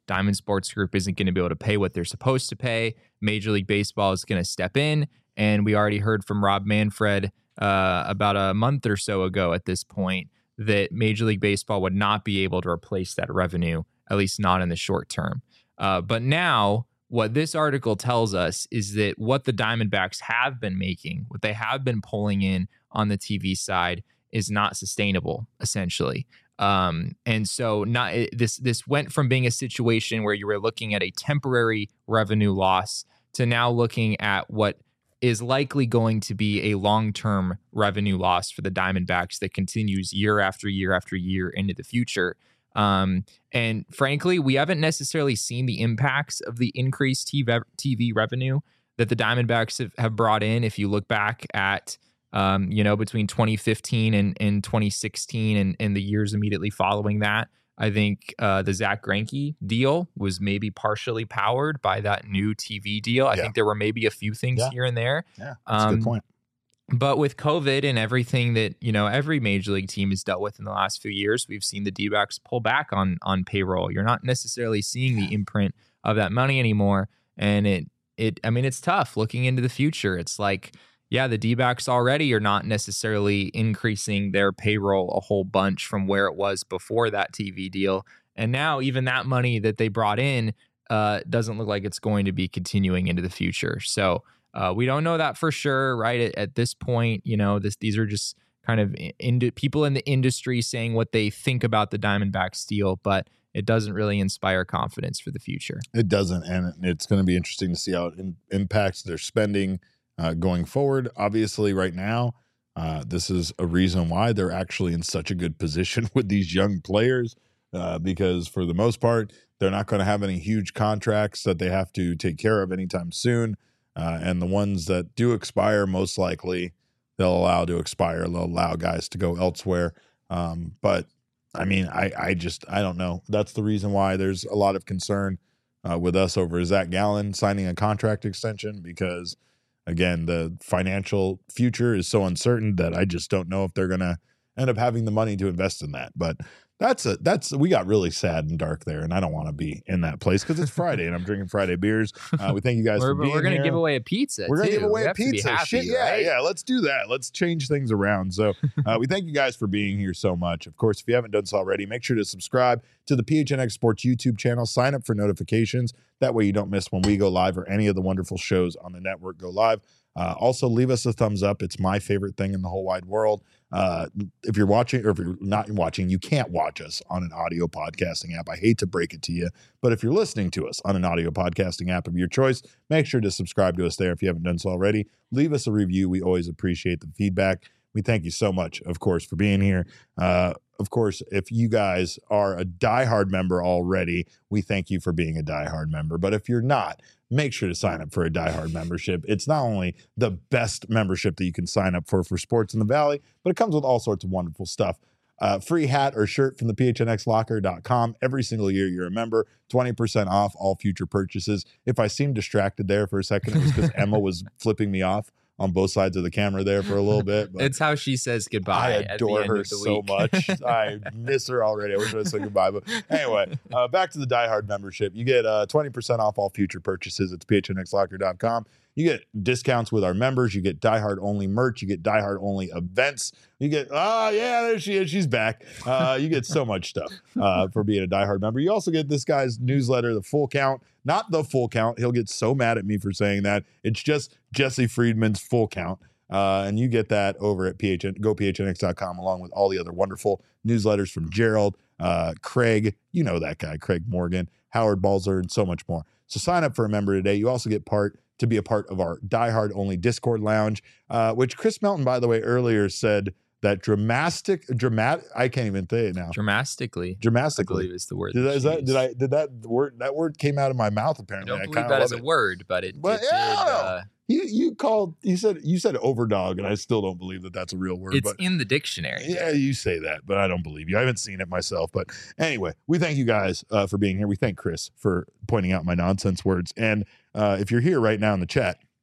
Diamond Sports Group isn't going to be able to pay what they're supposed to pay. Major League Baseball is going to step in. And we already heard from Rob Manfred uh, about a month or so ago at this point that Major League Baseball would not be able to replace that revenue, at least not in the short term. Uh, but now what this article tells us is that what the Diamondbacks have been making, what they have been pulling in on the T V side is not sustainable, essentially. Um, and so not this this went from being a situation where you were looking at a temporary revenue loss to now looking at what is likely going to be a long-term revenue loss for the Diamondbacks that continues year after year after year into the future. Um, and frankly, we haven't necessarily seen the impacts of the increased T V, T V revenue that the Diamondbacks have, have brought in. If you look back at, um, you know, between twenty fifteen and, and twenty sixteen and, and the years immediately following that, I think uh, the Zach Greinke deal was maybe partially powered by that new T V deal. I Yeah. think there were maybe a few things Yeah. here and there. Yeah, that's Um, a good point. But with COVID and everything that, you know, every major league team has dealt with in the last few years, we've seen the D-backs pull back on on payroll. You're not necessarily seeing the imprint of that money anymore. And it, it, I mean, it's tough looking into the future. It's like, yeah, the D-backs already are not necessarily increasing their payroll a whole bunch from where it was before that T V deal. And now even that money that they brought in uh, doesn't look like it's going to be continuing into the future. So, Uh, we don't know that for sure, right? At, at this point, you know, this these are just kind of in, people in the industry saying what they think about the Diamondbacks deal, but it doesn't really inspire confidence for the future. It doesn't, and it's going to be interesting to see how it in, impacts their spending uh, going forward. Obviously, right now, uh, this is a reason why they're actually in such a good position with these young players, uh, because for the most part, they're not going to have any huge contracts that they have to take care of anytime soon. Uh, and the ones that do expire, most likely they'll allow to expire. They'll allow guys to go elsewhere. Um, but I mean, I, I just, I don't know. That's the reason why there's a lot of concern uh, with us over Zach Gallen signing a contract extension, because again, the financial future is so uncertain that I just don't know if they're going to end up having the money to invest in that. But That's a that's we got really sad and dark there, and I don't want to be in that place because it's Friday and I'm drinking Friday beers. Uh, we thank you guys we're, for being We're gonna here. give away a pizza. We're gonna too. give away we a pizza. Happy, Shit, yeah, right? yeah. Let's do that. Let's change things around. So uh, we thank you guys for being here so much. Of course, if you haven't done so already, make sure to subscribe to the P H N X Sports YouTube channel. Sign up for notifications. That way you don't miss when we go live or any of the wonderful shows on the network go live. Uh, also, leave us a thumbs up. It's my favorite thing in the whole wide world. Uh, if you're watching or if you're not watching, you can't watch us on an audio podcasting app. I hate to break it to you, but if you're listening to us on an audio podcasting app of your choice, make sure to subscribe to us there if you haven't done so already. Leave us a review. We always appreciate the feedback. We thank you so much, of course, for being here. Uh, of course, if you guys are a diehard member already, we thank you for being a diehard member. But if you're not, make sure to sign up for a diehard membership. It's not only the best membership that you can sign up for for sports in the Valley, but it comes with all sorts of wonderful stuff. Uh, free hat or shirt from the P H N X locker dot com. Every single year you're a member, twenty percent off all future purchases. If I seemed distracted there for a second, it was because Emma was flipping me off on both sides of the camera there for a little bit. But it's how she says goodbye. I at the adore end her of the so week. much. I miss her already. I wish I said goodbye. But anyway, uh, back to the diehard membership. You get uh, twenty percent off all future purchases. It's P H N X locker dot com. You get discounts with our members. You get diehard only merch. You get diehard only events. You get, oh, yeah, there she is. She's back. Uh, you get so much stuff uh, for being a diehard member. You also get this guy's newsletter, The Full Count. Not The Full Count. He'll get so mad at me for saying that. It's just Jesse Friedman's Full Count. Uh, and you get that over at P H N, go P H N X dot com, along with all the other wonderful newsletters from Gerald, uh, Craig, you know that guy, Craig Morgan, Howard Balzer, and so much more. So sign up for a member today. You also get part to be a part of our diehard only Discord lounge, uh, which Chris Melton, by the way, earlier said that dramatic, dramatic, I can't even say it now. Dramatically. I Dramatically. believe is the word. Did, that, is that, she did used. I, did that word, that word came out of my mouth I apparently. don't I believe kinda that love is a it. word, but it, But it did. yeah. Uh, You, you called, you said, you said overdog, and I still don't believe that that's a real word. it's but in the dictionary. yeah, you say that, but I don't believe you. I haven't seen it myself. But anyway, we thank you guys uh, for being here. We thank Chris for pointing out my nonsense words. And uh, if you're here right now in the chat,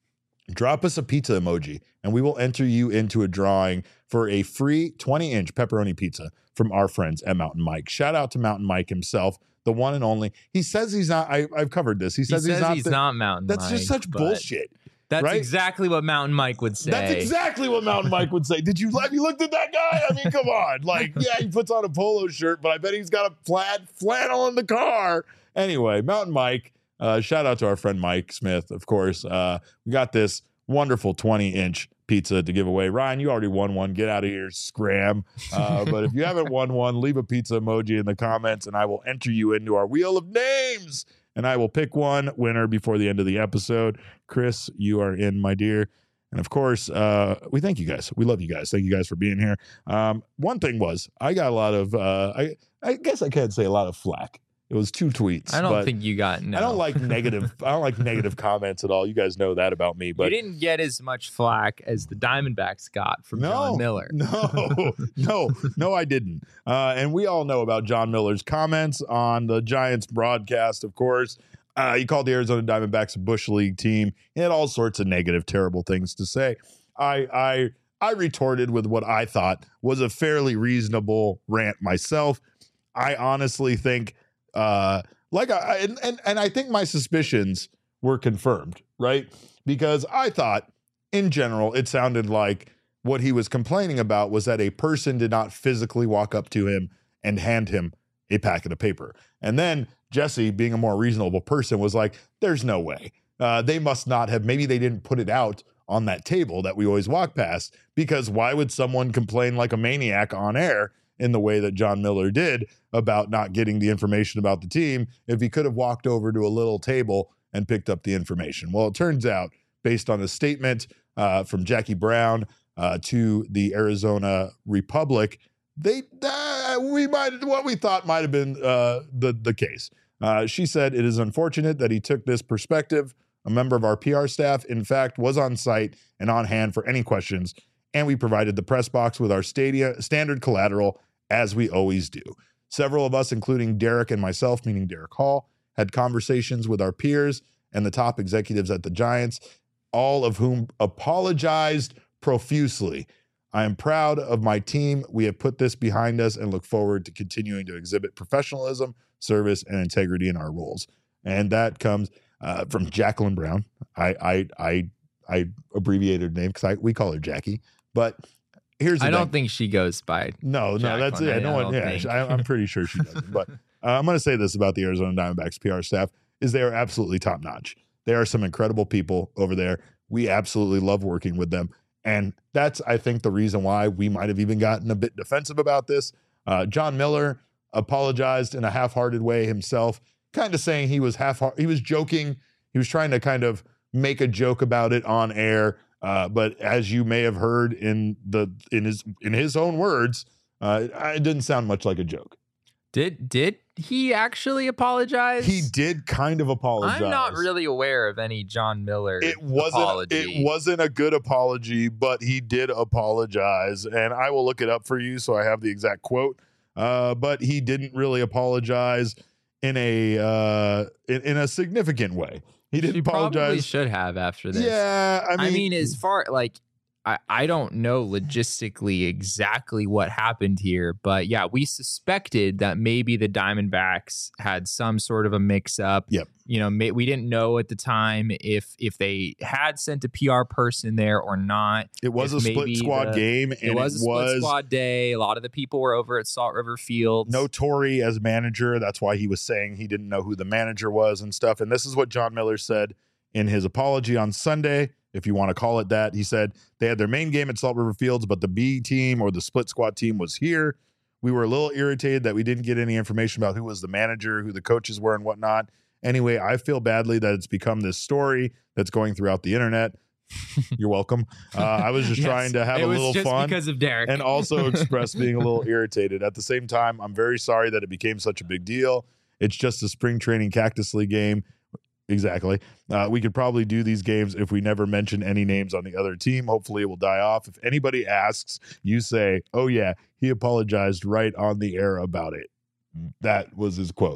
drop us a pizza emoji and we will enter you into a drawing for a free twenty inch pepperoni pizza from our friends at Mountain Mike. Shout out to Mountain Mike himself, the one and only. He says he's not, I, I've covered this. He says, he he's, says not, he's the, not Mountain That's Mike. just such bullshit. That's right? exactly what Mountain Mike would say. That's exactly what Mountain Mike would say. Did you have you looked at that guy? I mean, come on. Like, yeah, he puts on a polo shirt, but I bet he's got a plaid flannel in the car. Anyway, Mountain Mike, uh, shout out to our friend Mike Smith, of course. Uh, we got this wonderful twenty inch pizza to give away. Ryan, you already won one. Get out of here, scram. Uh, but if you haven't won one, leave a pizza emoji in the comments and I will enter you into our wheel of names. And I will pick one winner before the end of the episode. Chris, you are in, my dear. And of course, uh, we thank you guys. We love you guys. Thank you guys for being here. Um, one thing was, I got a lot of, uh, I, I guess I can't say a lot of flack. It was two tweets. I don't think you got no. I don't like negative. I don't like negative comments at all. You guys know that about me. But you didn't get as much flack as the Diamondbacks got from no, John Miller. No, no, no, I didn't. Uh, and we all know about John Miller's comments on the Giants broadcast, of course. Uh, he called the Arizona Diamondbacks a Bush League team. He had all sorts of negative, terrible things to say. I, I, I retorted with what I thought was a fairly reasonable rant myself. I honestly think. Uh, like I and, and and I think my suspicions were confirmed, right? Because I thought, in general, it sounded like what he was complaining about was that a person did not physically walk up to him and hand him a packet of paper. And then Jesse, being a more reasonable person, was like, "There's no way. Uh, they must not have. Maybe they didn't put it out on that table that we always walk past. Because why would someone complain like a maniac on air?" In the way that John Miller did about not getting the information about the team if he could have walked over to a little table and picked up the information. Well, it turns out, based on a statement uh, from Jackie Brown uh, to the Arizona Republic, they uh, we might what we thought might have been uh, the the case. Uh, she said, "It is unfortunate that he took this perspective. A member of our P R staff, in fact, was on site and on hand for any questions, and we provided the press box with our stadia standard collateral, as we always do. Several of us, including Derek and myself, meaning Derek Hall, had conversations with our peers and the top executives at the Giants, all of whom apologized profusely. I am proud of my team. We have put this behind us and look forward to continuing to exhibit professionalism, service, and integrity in our roles." And that comes uh, from Jacqueline Brown. I I I, I abbreviated her name because we call her Jackie, but here's the I don't thing. think she goes by. No, no, that's it. I, no I one. Yeah, think. I, I'm pretty sure she doesn't. But uh, I'm going to say this about the Arizona Diamondbacks P R staff: is they are absolutely top notch. They are some incredible people over there. We absolutely love working with them, and that's I think the reason why we might have even gotten a bit defensive about this. Uh, John Miller apologized in a half-hearted way himself, kind of saying he was half. He was joking. He was trying to kind of make a joke about it on air. Uh, but as you may have heard in the in his in his own words, uh, it didn't sound much like a joke. Did did he actually apologize? He did kind of apologize. I'm not really aware of any John Miller It wasn't. apology. It wasn't a good apology, but he did apologize, and I will look it up for you so I have the exact quote. Uh, but he didn't really apologize in a uh, in, in a significant way. He didn't She apologize. Probably should have after this. Yeah, I mean, I mean, as far like I, I don't know logistically exactly what happened here, but yeah, we suspected that maybe the Diamondbacks had some sort of a mix-up. Yep. You know, may, we didn't know at the time if if they had sent a P R person there or not. it was if a split maybe squad the- game, and It was a it split was squad day. A lot of the people were over at Salt River Field. no Torrey as manager. That's why he was saying he didn't know who the manager was and stuff. And this is what John Miller said in his apology on Sunday, if you want to call it that. He said they had their main game at Salt River Fields, but the B team or the split squad team was here. We were a little irritated that we didn't get any information about who was the manager, who the coaches were, and whatnot. Anyway, I feel badly that it's become this story that's going throughout the internet. You're welcome. Uh, I was just Yes, trying to have it a was little just fun. because of Derek. And also express being a little irritated. At the same time, I'm very sorry that it became such a big deal. It's just a spring training Cactus League game. Exactly. Uh, we could probably do these games if we never mention any names on the other team. Hopefully it will die off. If anybody asks, you say, oh, yeah, he apologized right on the air about it. That was his quote.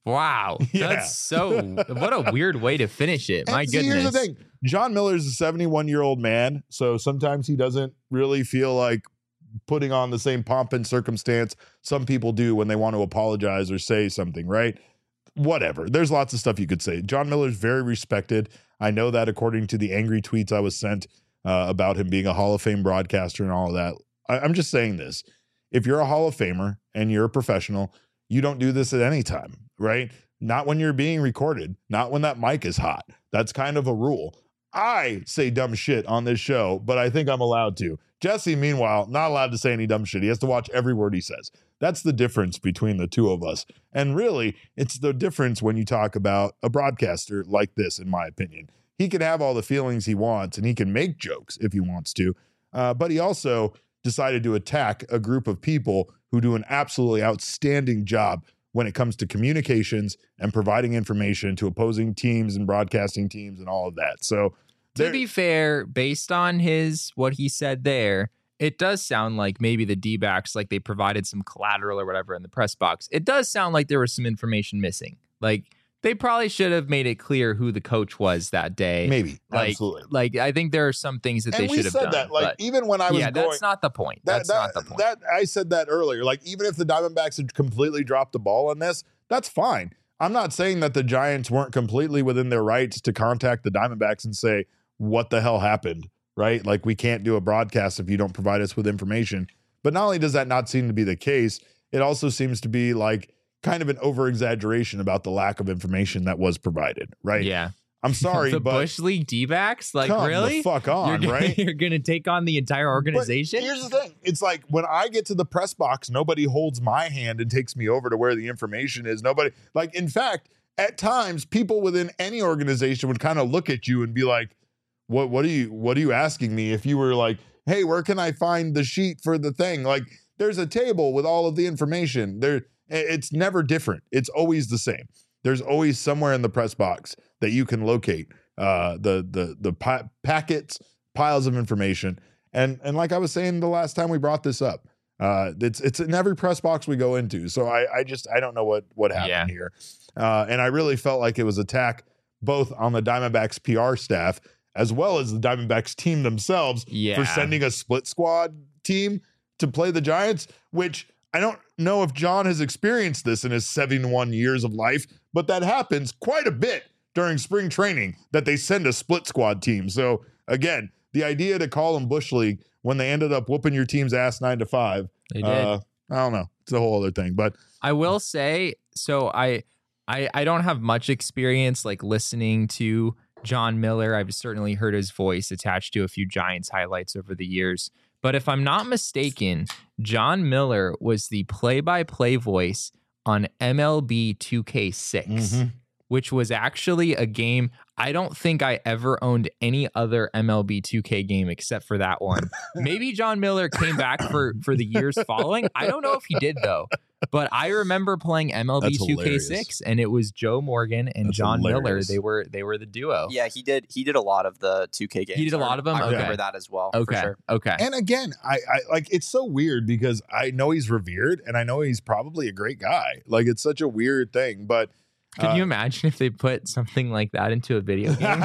Wow. Yeah. That's so, what a weird way to finish it. My And see, goodness. here's the thing. John Miller's a seventy-one year old man. So sometimes he doesn't really feel like putting on the same pomp and circumstance some people do when they want to apologize or say something, right? Whatever. There's lots of stuff you could say. John Miller's very respected. I know that according to the angry tweets I was sent uh, about him being a Hall of Fame broadcaster and all of that. I, I'm just saying this. If you're a Hall of Famer and you're a professional, you don't do this at any time, right? Not when you're being recorded, not when that mic is hot. That's kind of a rule. I say dumb shit on this show, but I think I'm allowed to. Jesse, meanwhile, not allowed to say any dumb shit. He has to watch every word he says. That's the difference between the two of us. And really, it's the difference when you talk about a broadcaster like this, in my opinion. He can have all the feelings he wants, and he can make jokes if he wants to. Uh, but he also decided to attack a group of people who do an absolutely outstanding job when it comes to communications and providing information to opposing teams and broadcasting teams and all of that. So to be fair, based on his what he said there, it does sound like maybe the D-backs, like they provided some collateral or whatever in the press box. It does sound like there was some information missing. Like they probably should have made it clear who the coach was that day. Maybe. Like, Absolutely. Like I think there are some things that And they we should have said done. that, like, but even when I was yeah, going, that's not the point. that, That's that, not the point. That I said that earlier. Like, even if the Diamondbacks had completely dropped the ball on this, that's fine. I'm not saying that the Giants weren't completely within their rights to contact the Diamondbacks and say, what the hell happened, right? Like, we can't do a broadcast if you don't provide us with information. But not only does that not seem to be the case, it also seems to be like kind of an over exaggeration about the lack of information that was provided, right? Yeah. I'm sorry, the but Bush League D-backs, like come really? the fuck on, you're gonna, right? You're gonna take on the entire organization. But here's the thing: it's like when I get to the press box, nobody holds my hand and takes me over to where the information is. Nobody, like, in fact, at times, people within any organization would kind of look at you and be like, "What? What are you? What are you asking me?" If you were like, "Hey, where can I find the sheet for the thing?" Like, there's a table with all of the information. There, it's never different. It's always the same. There's always somewhere in the press box that you can locate uh, the the the pa- packets, piles of information, and and like I was saying the last time we brought this up, uh, it's it's in every press box we go into. So I I just I don't know what what happened Yeah. here, uh, and I really felt like it was attack both on the Diamondbacks P R staff as well as the Diamondbacks team themselves Yeah. for sending a split squad team to play the Giants, which I don't know if John has experienced this in his seventy-one years of life, but that happens quite a bit during spring training that they send a split squad team. So again, the idea to call them Bush League when they ended up whooping your team's ass nine to five. They did. Uh, I don't know. It's a whole other thing, but I will say, so I, I, I don't have much experience like listening to John Miller. I've certainly heard his voice attached to a few Giants highlights over the years. But if I'm not mistaken, John Miller was the play-by-play voice on M L B two K six, Mhm. which was actually a game. I don't think I ever owned any other M L B two K game except for that one. Maybe John Miller came back for, for the years following. I don't know if he did, though. But I remember playing M L B That's two K hilarious. six, and it was Joe Morgan and That's John Miller. hilarious. They were they were the duo. Yeah, he did. He did a lot of the two K games. He did a lot of them? I remember Okay. that as well. Okay. For sure. Okay. and again, I, I like it's so weird because I know he's revered and I know he's probably a great guy. Like, it's such a weird thing, but Can uh, you imagine if they put something like that into a video game?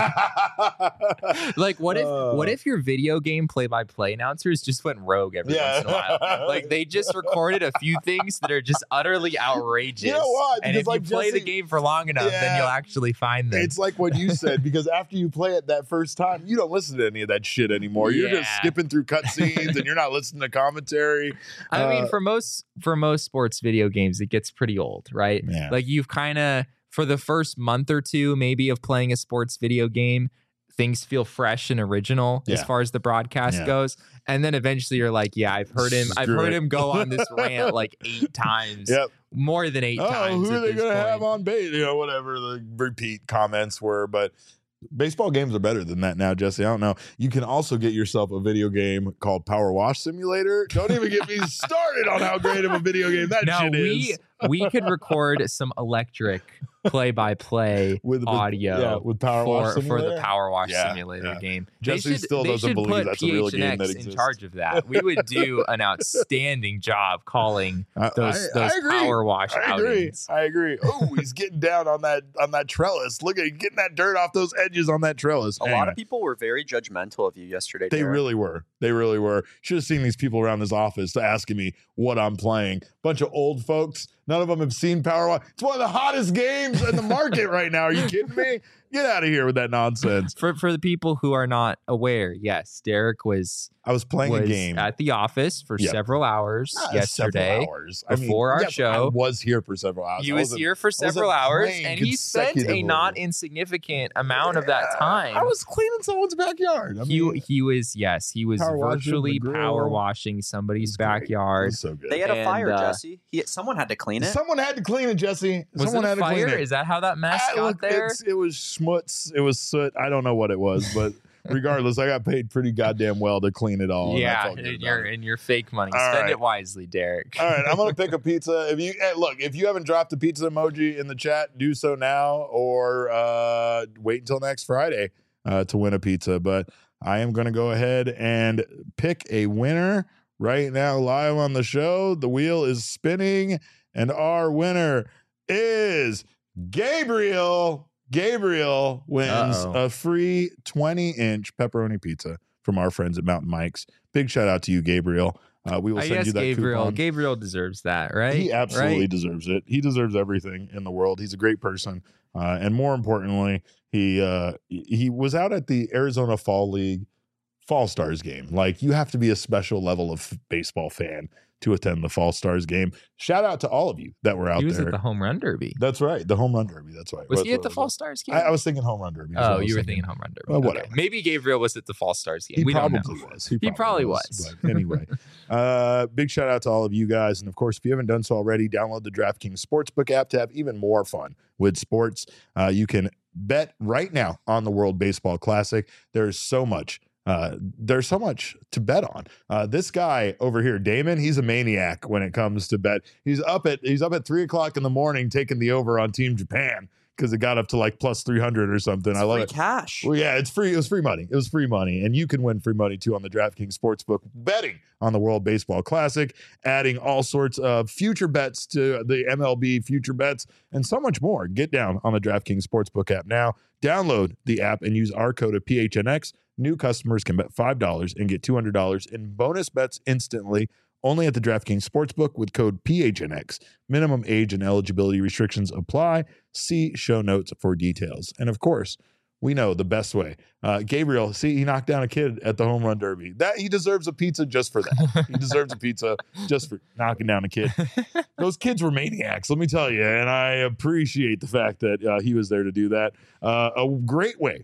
Like, what if Uh. what if your video game play by play announcers just went rogue every Yeah. once in a while? Like, they just recorded a few things that are just utterly outrageous. You know what? And Because, if like, you play the Jesse- game for long enough, Yeah. then you'll actually find them. It's like what you said, because after you play it that first time, you don't listen to any of that shit anymore. You're just Yeah. skipping through cutscenes and you're not listening to commentary. I mean, Uh, for most for most sports video games, it gets pretty old, right? Yeah. Like, you've kind of, for the first month or two, maybe, of playing a sports video game, things feel fresh and original as Yeah. far as the broadcast Yeah. goes. And then eventually you're like, yeah, I've heard him. I've Screw heard it. him go on this rant like eight times, Yep. more than eight Oh, times. who are at they this going to have point. on base? You know, whatever the repeat comments were. But baseball games are better than that now, Jesse. I don't know. You can also get yourself a video game called Power Wash Simulator. Don't even get me started on how great of a video game that Now shit we is. we could record some electric play-by-play With- with- audio yeah, with Power Wash for, for the Simulator? Power Wash Yeah, Simulator yeah. game. Jesse they should, still they doesn't should believe put that's a real game that P H N X in exists. charge of that. We would do an outstanding job calling I- those I- I those agree. Power Wash I agree. outings. I agree. Oh, he's getting down on that on that trellis. Look at he's getting that dirt off those edges on that trellis. A lot Anyway, of people were very judgmental of you yesterday. they Derek. really were. They really were. Should have seen these people around this office asking me what I'm playing. Bunch of old folks. None of them have seen Power Wash. It's one of the hottest games in the market right now. Are you kidding me? Get out of here with that nonsense. For for the people who are not aware, yes, Derek was I was playing was a game at the office for Yep. several hours Ah, yesterday. several hours. I mean, before our yeah, but show. I was here for several hours. He I was wasn't- here for wasn't several hours, playing and he spent a consecutively. not insignificant amount of that Yeah, time. I was cleaning someone's backyard. I he mean, he was yes, he was power washing virtually the grill. power washing it somebody's was great. It backyard. was so good. They had a And, fire, uh, Jesse. He, someone had to clean it. Someone had to clean it, Jesse. Was Someone it a had to fire? clean it. Is that how that mess Ah, got look, there? it's- It was schmutz. It was soot. I don't know what it was, but regardless, I got paid pretty goddamn well to clean it all. and I Yeah, felt good in about your it. in your fake money. All Spend right. it wisely, Derek. All right, I'm gonna pick a pizza. If you hey, look, if you haven't dropped a pizza emoji in the chat, do so now, or uh, wait until next Friday uh, to win a pizza. But I am gonna go ahead and pick a winner right now, live on the show. The wheel is spinning, and our winner is Gabriel. Gabriel wins Uh-oh. a free twenty inch pepperoni pizza from our friends at Mountain Mike's. Big shout out to you, Gabriel. Uh, we will I send guess you that Gabriel coupon. Gabriel deserves that, right? He absolutely Right? deserves it. He deserves everything in the world. He's a great person, uh, and more importantly, he uh, he was out at the Arizona Fall League Fall Stars game. Like, you have to be a special level of baseball fan to attend the Fall Stars game. Shout out to all of you that were out He was there. at the home run derby. That's right, the home run derby. That's right. Was That's he at what the it Fall was. Stars game? I, I was thinking home run derby. is what I Oh, was you were thinking home run derby. Well, Okay. whatever. Maybe Gabriel was at the Fall Stars game. He we don't probably know. was. He probably was. But anyway, uh, big shout out to all of you guys. And of course, if you haven't done so already, download the DraftKings Sportsbook app to have even more fun with sports. Uh, you can bet right now on the World Baseball Classic. There's so much. Uh, there's so much to bet on. Uh, this guy over here, Damon, he's a maniac when it comes to bet. He's up at he's up at three o'clock in the morning taking the over on Team Japan because it got up to like plus three hundred or something. It's I love free it. cash. Well, yeah, it's free. It was free money. It was free money. And you can win free money too on the DraftKings Sportsbook, betting on the World Baseball Classic, adding all sorts of future bets to the M L B future bets, and so much more. Get down on the DraftKings Sportsbook app now. Download the app and use our code of P H N X. New customers can bet five dollars and get two hundred dollars in bonus bets instantly. Only at the DraftKings Sportsbook with code P H N X. Minimum age and eligibility restrictions apply. See show notes for details. And of course, we know the best way. Uh, Gabriel, see, he knocked down a kid at the home run derby. That he deserves a pizza just for that. He deserves a pizza just for knocking down a kid. Those kids were maniacs, let me tell you. And I appreciate the fact that uh, he was there to do that. Uh, a great way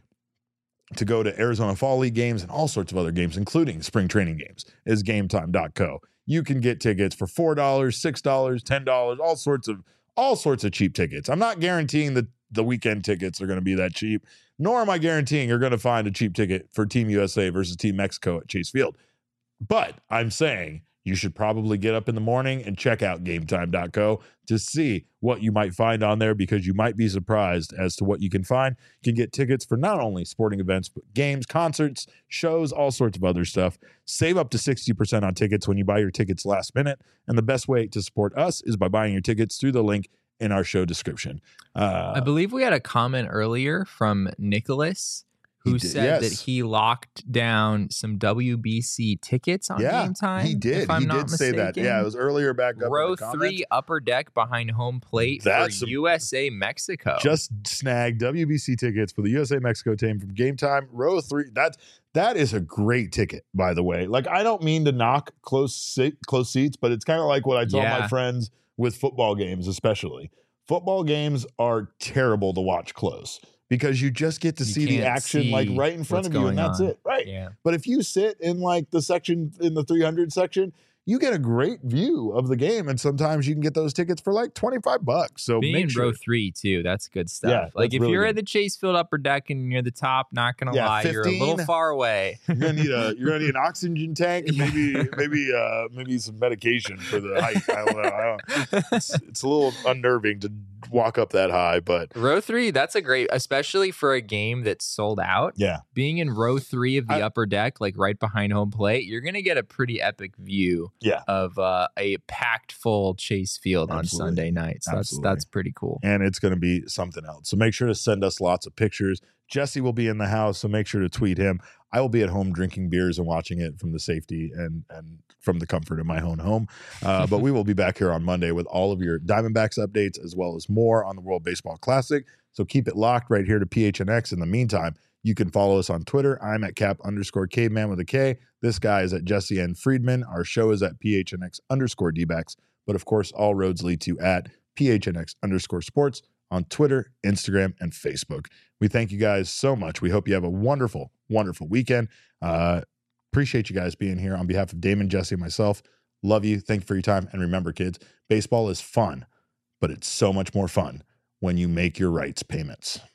to go to Arizona Fall League games and all sorts of other games, including spring training games, is game time dot co. You can get tickets for four dollars, six dollars, ten dollars, all sorts of all sorts of cheap tickets. I'm not guaranteeing that the weekend tickets are going to be that cheap, nor am I guaranteeing you're going to find a cheap ticket for Team U S A versus Team Mexico at Chase Field. But I'm saying you should probably get up in the morning and check out game time dot co to see what you might find on there, because you might be surprised as to what you can find. You can get tickets for not only sporting events, but games, concerts, shows, all sorts of other stuff. Save up to sixty percent on tickets when you buy your tickets last minute. And the best way to support us is by buying your tickets through the link in our show description. Uh, I believe we had a comment earlier from Nicholas who He did, said that yes. he locked down some W B C tickets on yeah, Game Time. he did. If I'm he not did say that. mistaken. Yeah, it was earlier back up Row in the comments. three, upper deck behind home plate That's for a- U S A Mexico. Just snagged W B C tickets for the U S A Mexico team from Game Time. Row three. That's that is a great ticket, by the way. Like, I don't mean to knock close se- close seats, but it's kind of like what I tell Yeah. my friends with football games, especially. Football games are terrible to watch close because you just get to You see the can't action like see right in front what's of you, and going that's on. it, right? yeah. But if you sit in like the section in the three hundred section, you get a great view of the game. And sometimes you can get those tickets for like twenty-five bucks. So being make in sure. row three too, that's good stuff. Yeah, like if really you're good. at the Chase Field upper deck and you're the top, not gonna Yeah, lie, you're a little fifteen far away. You're gonna need a you're gonna need an oxygen tank and maybe maybe uh maybe some medication for the height. I don't know. I don't, it's, it's a little unnerving to walk up that high, but Row three, that's a great, especially for a game that's sold out. yeah, Being in row three of the I- upper deck, like right behind home plate, you're gonna get a pretty epic view yeah. of uh, a packed full Chase Field on Absolutely. Sunday nights. That's Absolutely. that's pretty cool. And it's going to be something else. So make sure to send us lots of pictures. Jesse will be in the house, so make sure to tweet him. I will be at home drinking beers and watching it from the safety and and from the comfort of my own home. Uh, but we will be back here on Monday with all of your Diamondbacks updates as well as more on the World Baseball Classic. So keep it locked right here to P H N X. In the meantime, you can follow us on Twitter. I'm at cap underscore caveman with a K. This guy is at Jesse N. Friedman. Our show is at P H N X underscore D-backs. But of course, all roads lead to at P H N X underscore sports on Twitter, Instagram, and Facebook. We thank you guys so much. We hope you have a wonderful, wonderful weekend. Uh, appreciate you guys being here on behalf of Damon, Jesse, and myself. Love you. Thank you for your time. And remember, kids, baseball is fun, but it's so much more fun when you make your rights payments.